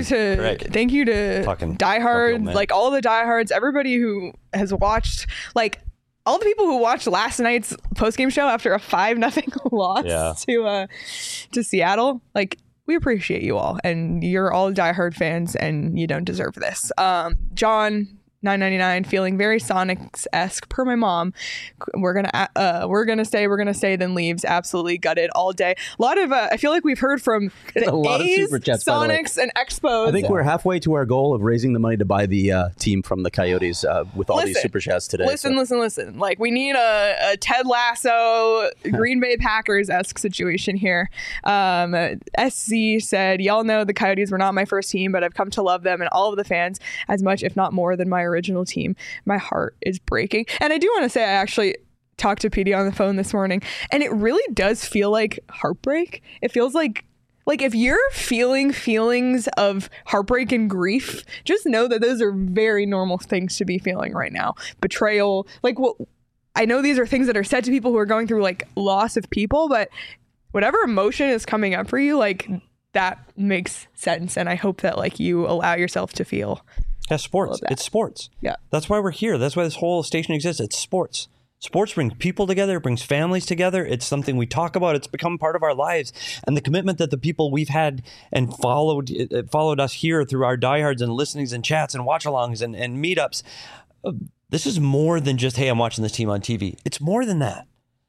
diehard, like all the diehards, everybody who has watched, like all the people who watched last night's postgame show after a 5-0 loss to Seattle. Like, we appreciate you all, and you're all diehard fans, and you don't deserve this. John 999 feeling very Sonics-esque per my mom. We're gonna stay, then leaves. Absolutely gutted all day. A lot of I feel like we've heard from the A's, super chats, Sonics, and Expos. I think we're halfway to our goal of raising the money to buy the team from the Coyotes with all these super chats today. Listen. Like, we need a Ted Lasso, Green Bay Packers-esque situation here. SC said, y'all know the Coyotes were not my first team, but I've come to love them and all of the fans as much, if not more, than my original team. My heart is breaking. And I do want to say, I actually talked to PD on the phone this morning, and it really does feel like heartbreak. It feels like if you're feeling feelings of heartbreak and grief, just know that those are very normal things to be feeling right now. Betrayal, like I know these are things that are said to people who are going through like loss of people, but whatever emotion is coming up for you, like that makes sense. And I hope that like you allow yourself to feel. Yeah, sports. It's sports. Yeah. That's why we're here. That's why this whole station exists. It's sports. Sports brings people together, it brings families together. It's something we talk about. It's become part of our lives. And the commitment that the people we've had and followed us here through our diehards and listenings and chats and watch-alongs and meetups. This is more than just, hey, I'm watching this team on TV. It's more than that.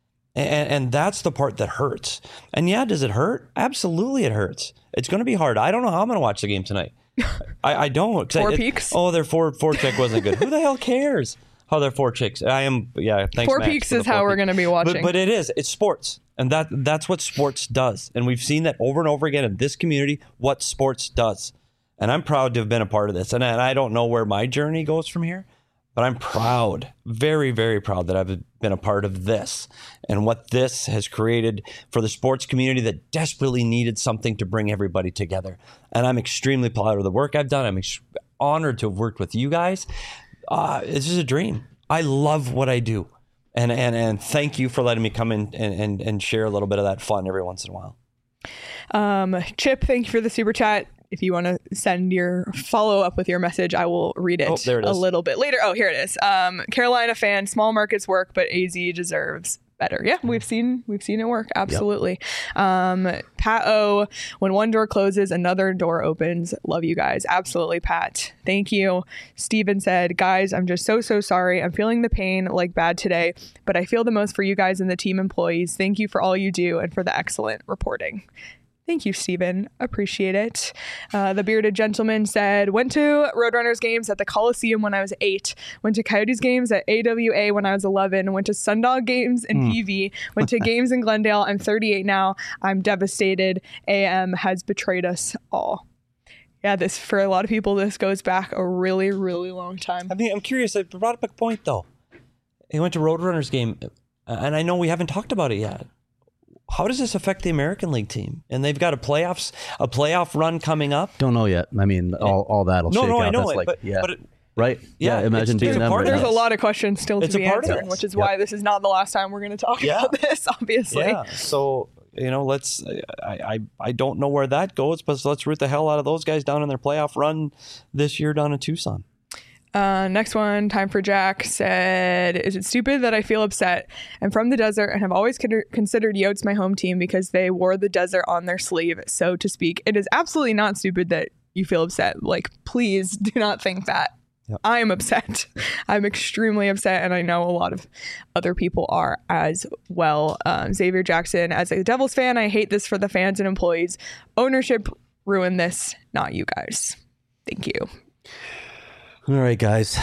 And that's the part that hurts. And yeah, does it hurt? Absolutely it hurts. It's going to be hard. I don't know how I'm going to watch the game tonight. I don't. Four Peaks? Oh, their four check wasn't good. Who the hell cares how their four chicks? Thanks, Four Max, Peaks is how we're going to be watching. But it's sports. And that's what sports does. And we've seen that over and over again in this community, what sports does. And I'm proud to have been a part of this. And I don't know where my journey goes from here, but I'm proud, very, very proud that I've been a part of this and what this has created for the sports community that desperately needed something to bring everybody together. And I'm extremely proud of the work I've done. I'm honored to have worked with you guys. This is a dream. I love what I do. And thank you for letting me come in and share a little bit of that fun every once in a while. Chip, thank you for the super chat. If you want to send your follow up with your message, I will read it, a little bit later. Oh, here it is. Carolina fan, small markets work, but AZ deserves better. Yeah, we've seen it work. Absolutely. Yep. Pat O, when one door closes, another door opens. Love you guys. Absolutely, Pat. Thank you. Steven said, guys, I'm just so sorry. I'm feeling the pain like bad today, but I feel the most for you guys and the team employees. Thank you for all you do and for the excellent reporting. Thank you, Stephen. Appreciate it. The Bearded Gentleman said, went to Roadrunners games at the Coliseum when I was 8, went to Coyotes games at AWA when I was 11, went to Sundog games in PV, went to games in Glendale. I'm 38 now. I'm devastated. AM has betrayed us all. Yeah, this, for a lot of people, this goes back a really, really long time. I mean, I'm curious. I brought up a point, though. He went to Roadrunners game, and I know we haven't talked about it yet. How does this affect the American League team? And they've got a playoff run coming up. Don't know yet. I mean, all that'll shake out. I know That's it, like, but right? Yeah, imagine being them. Right There's now. a lot of questions still to be answered, which is why this is not the last time we're going to talk about this, obviously. Yeah, so, let's, I don't know where that goes, but let's root the hell out of those guys down in their playoff run this year down in Tucson. Next one, Time for Jack said, is it stupid that I feel upset? I'm from the desert and have always considered Yotes my home team because they wore the desert on their sleeve, so to speak. It is absolutely not stupid that you feel upset. Like, please do not think that. Yep. I am upset. I'm extremely upset, and I know a lot of other people are as well. Xavier Jackson, as a Devils fan, I hate this for the fans and employees. Ownership ruined this, not you guys. Thank you. All right, guys.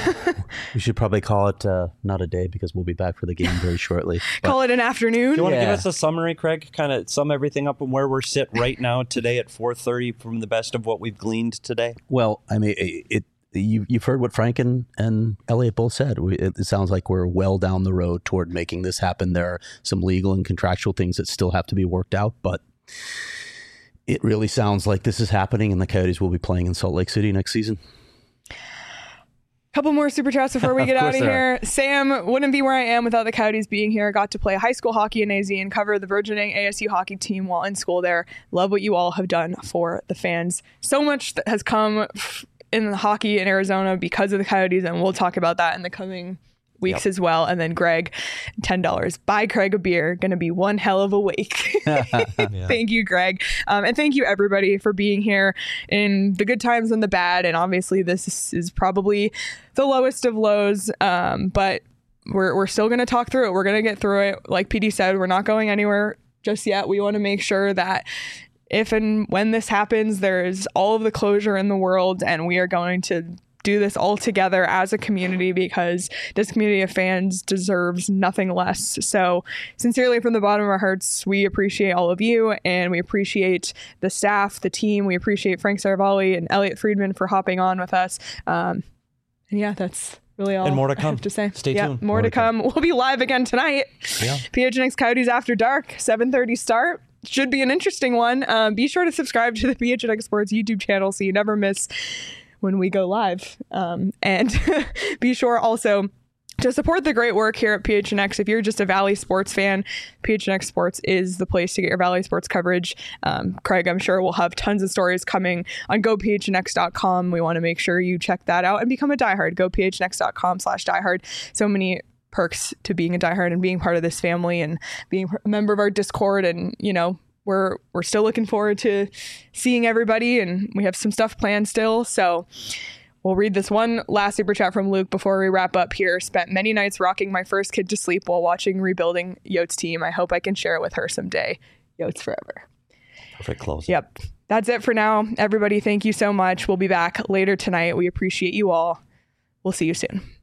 We should probably call it not a day because we'll be back for the game very shortly. Call it an afternoon. Do you want to give us a summary, Craig? Kind of sum everything up and where we're sit right now today at 4:30 from the best of what we've gleaned today? Well, I mean, you've heard what Frank and Elliot both said. It sounds like we're well down the road toward making this happen. There are some legal and contractual things that still have to be worked out, but it really sounds like this is happening and the Coyotes will be playing in Salt Lake City next season. Couple more super chats before we get out of here. Sam, wouldn't be where I am without the Coyotes being here. Got to play high school hockey in AZ and cover the burgeoning ASU hockey team while in school there. Love what you all have done for the fans. So much that has come in hockey in Arizona because of the Coyotes, and we'll talk about that in the coming weeks as well. And then Greg, $10. Buy Craig a beer. Going to be one hell of a week. Thank you, Greg. And thank you, everybody, for being here in the good times and the bad. And obviously, this is probably the lowest of lows. But we're still going to talk through it. We're going to get through it. Like PD said, we're not going anywhere just yet. We want to make sure that if and when this happens, there's all of the closure in the world, and we are going to do this all together as a community because this community of fans deserves nothing less. So sincerely, from the bottom of our hearts, we appreciate all of you, and we appreciate the staff, the team. We appreciate Frank Saravalli and Elliot Friedman for hopping on with us. And yeah, that's really all. And more to come. I have to say. Stay tuned. More to come. We'll be live again tonight. Yeah. PHNX Coyotes After Dark, 7:30 start. Should be an interesting one. Be sure to subscribe to the PHNX Sports YouTube channel so you never miss when we go live. And be sure also to support the great work here at PHNX. If you're just a Valley sports fan, PHNX Sports is the place to get your Valley sports coverage. Craig, I'm sure, will have tons of stories coming on gophnx.com. We want to make sure you check that out and become a diehard. Gophnx.com/diehard. So many perks to being a diehard and being part of this family and being a member of our Discord. And, you know, we're still looking forward to seeing everybody, and we have some stuff planned still. So we'll read this one last super chat from Luke before we wrap up here. Spent many nights rocking my first kid to sleep while watching Rebuilding Yotes team. I hope I can share it with her someday. Yotes forever. Perfect close. Yep. That's it for now. Everybody, thank you so much. We'll be back later tonight. We appreciate you all. We'll see you soon.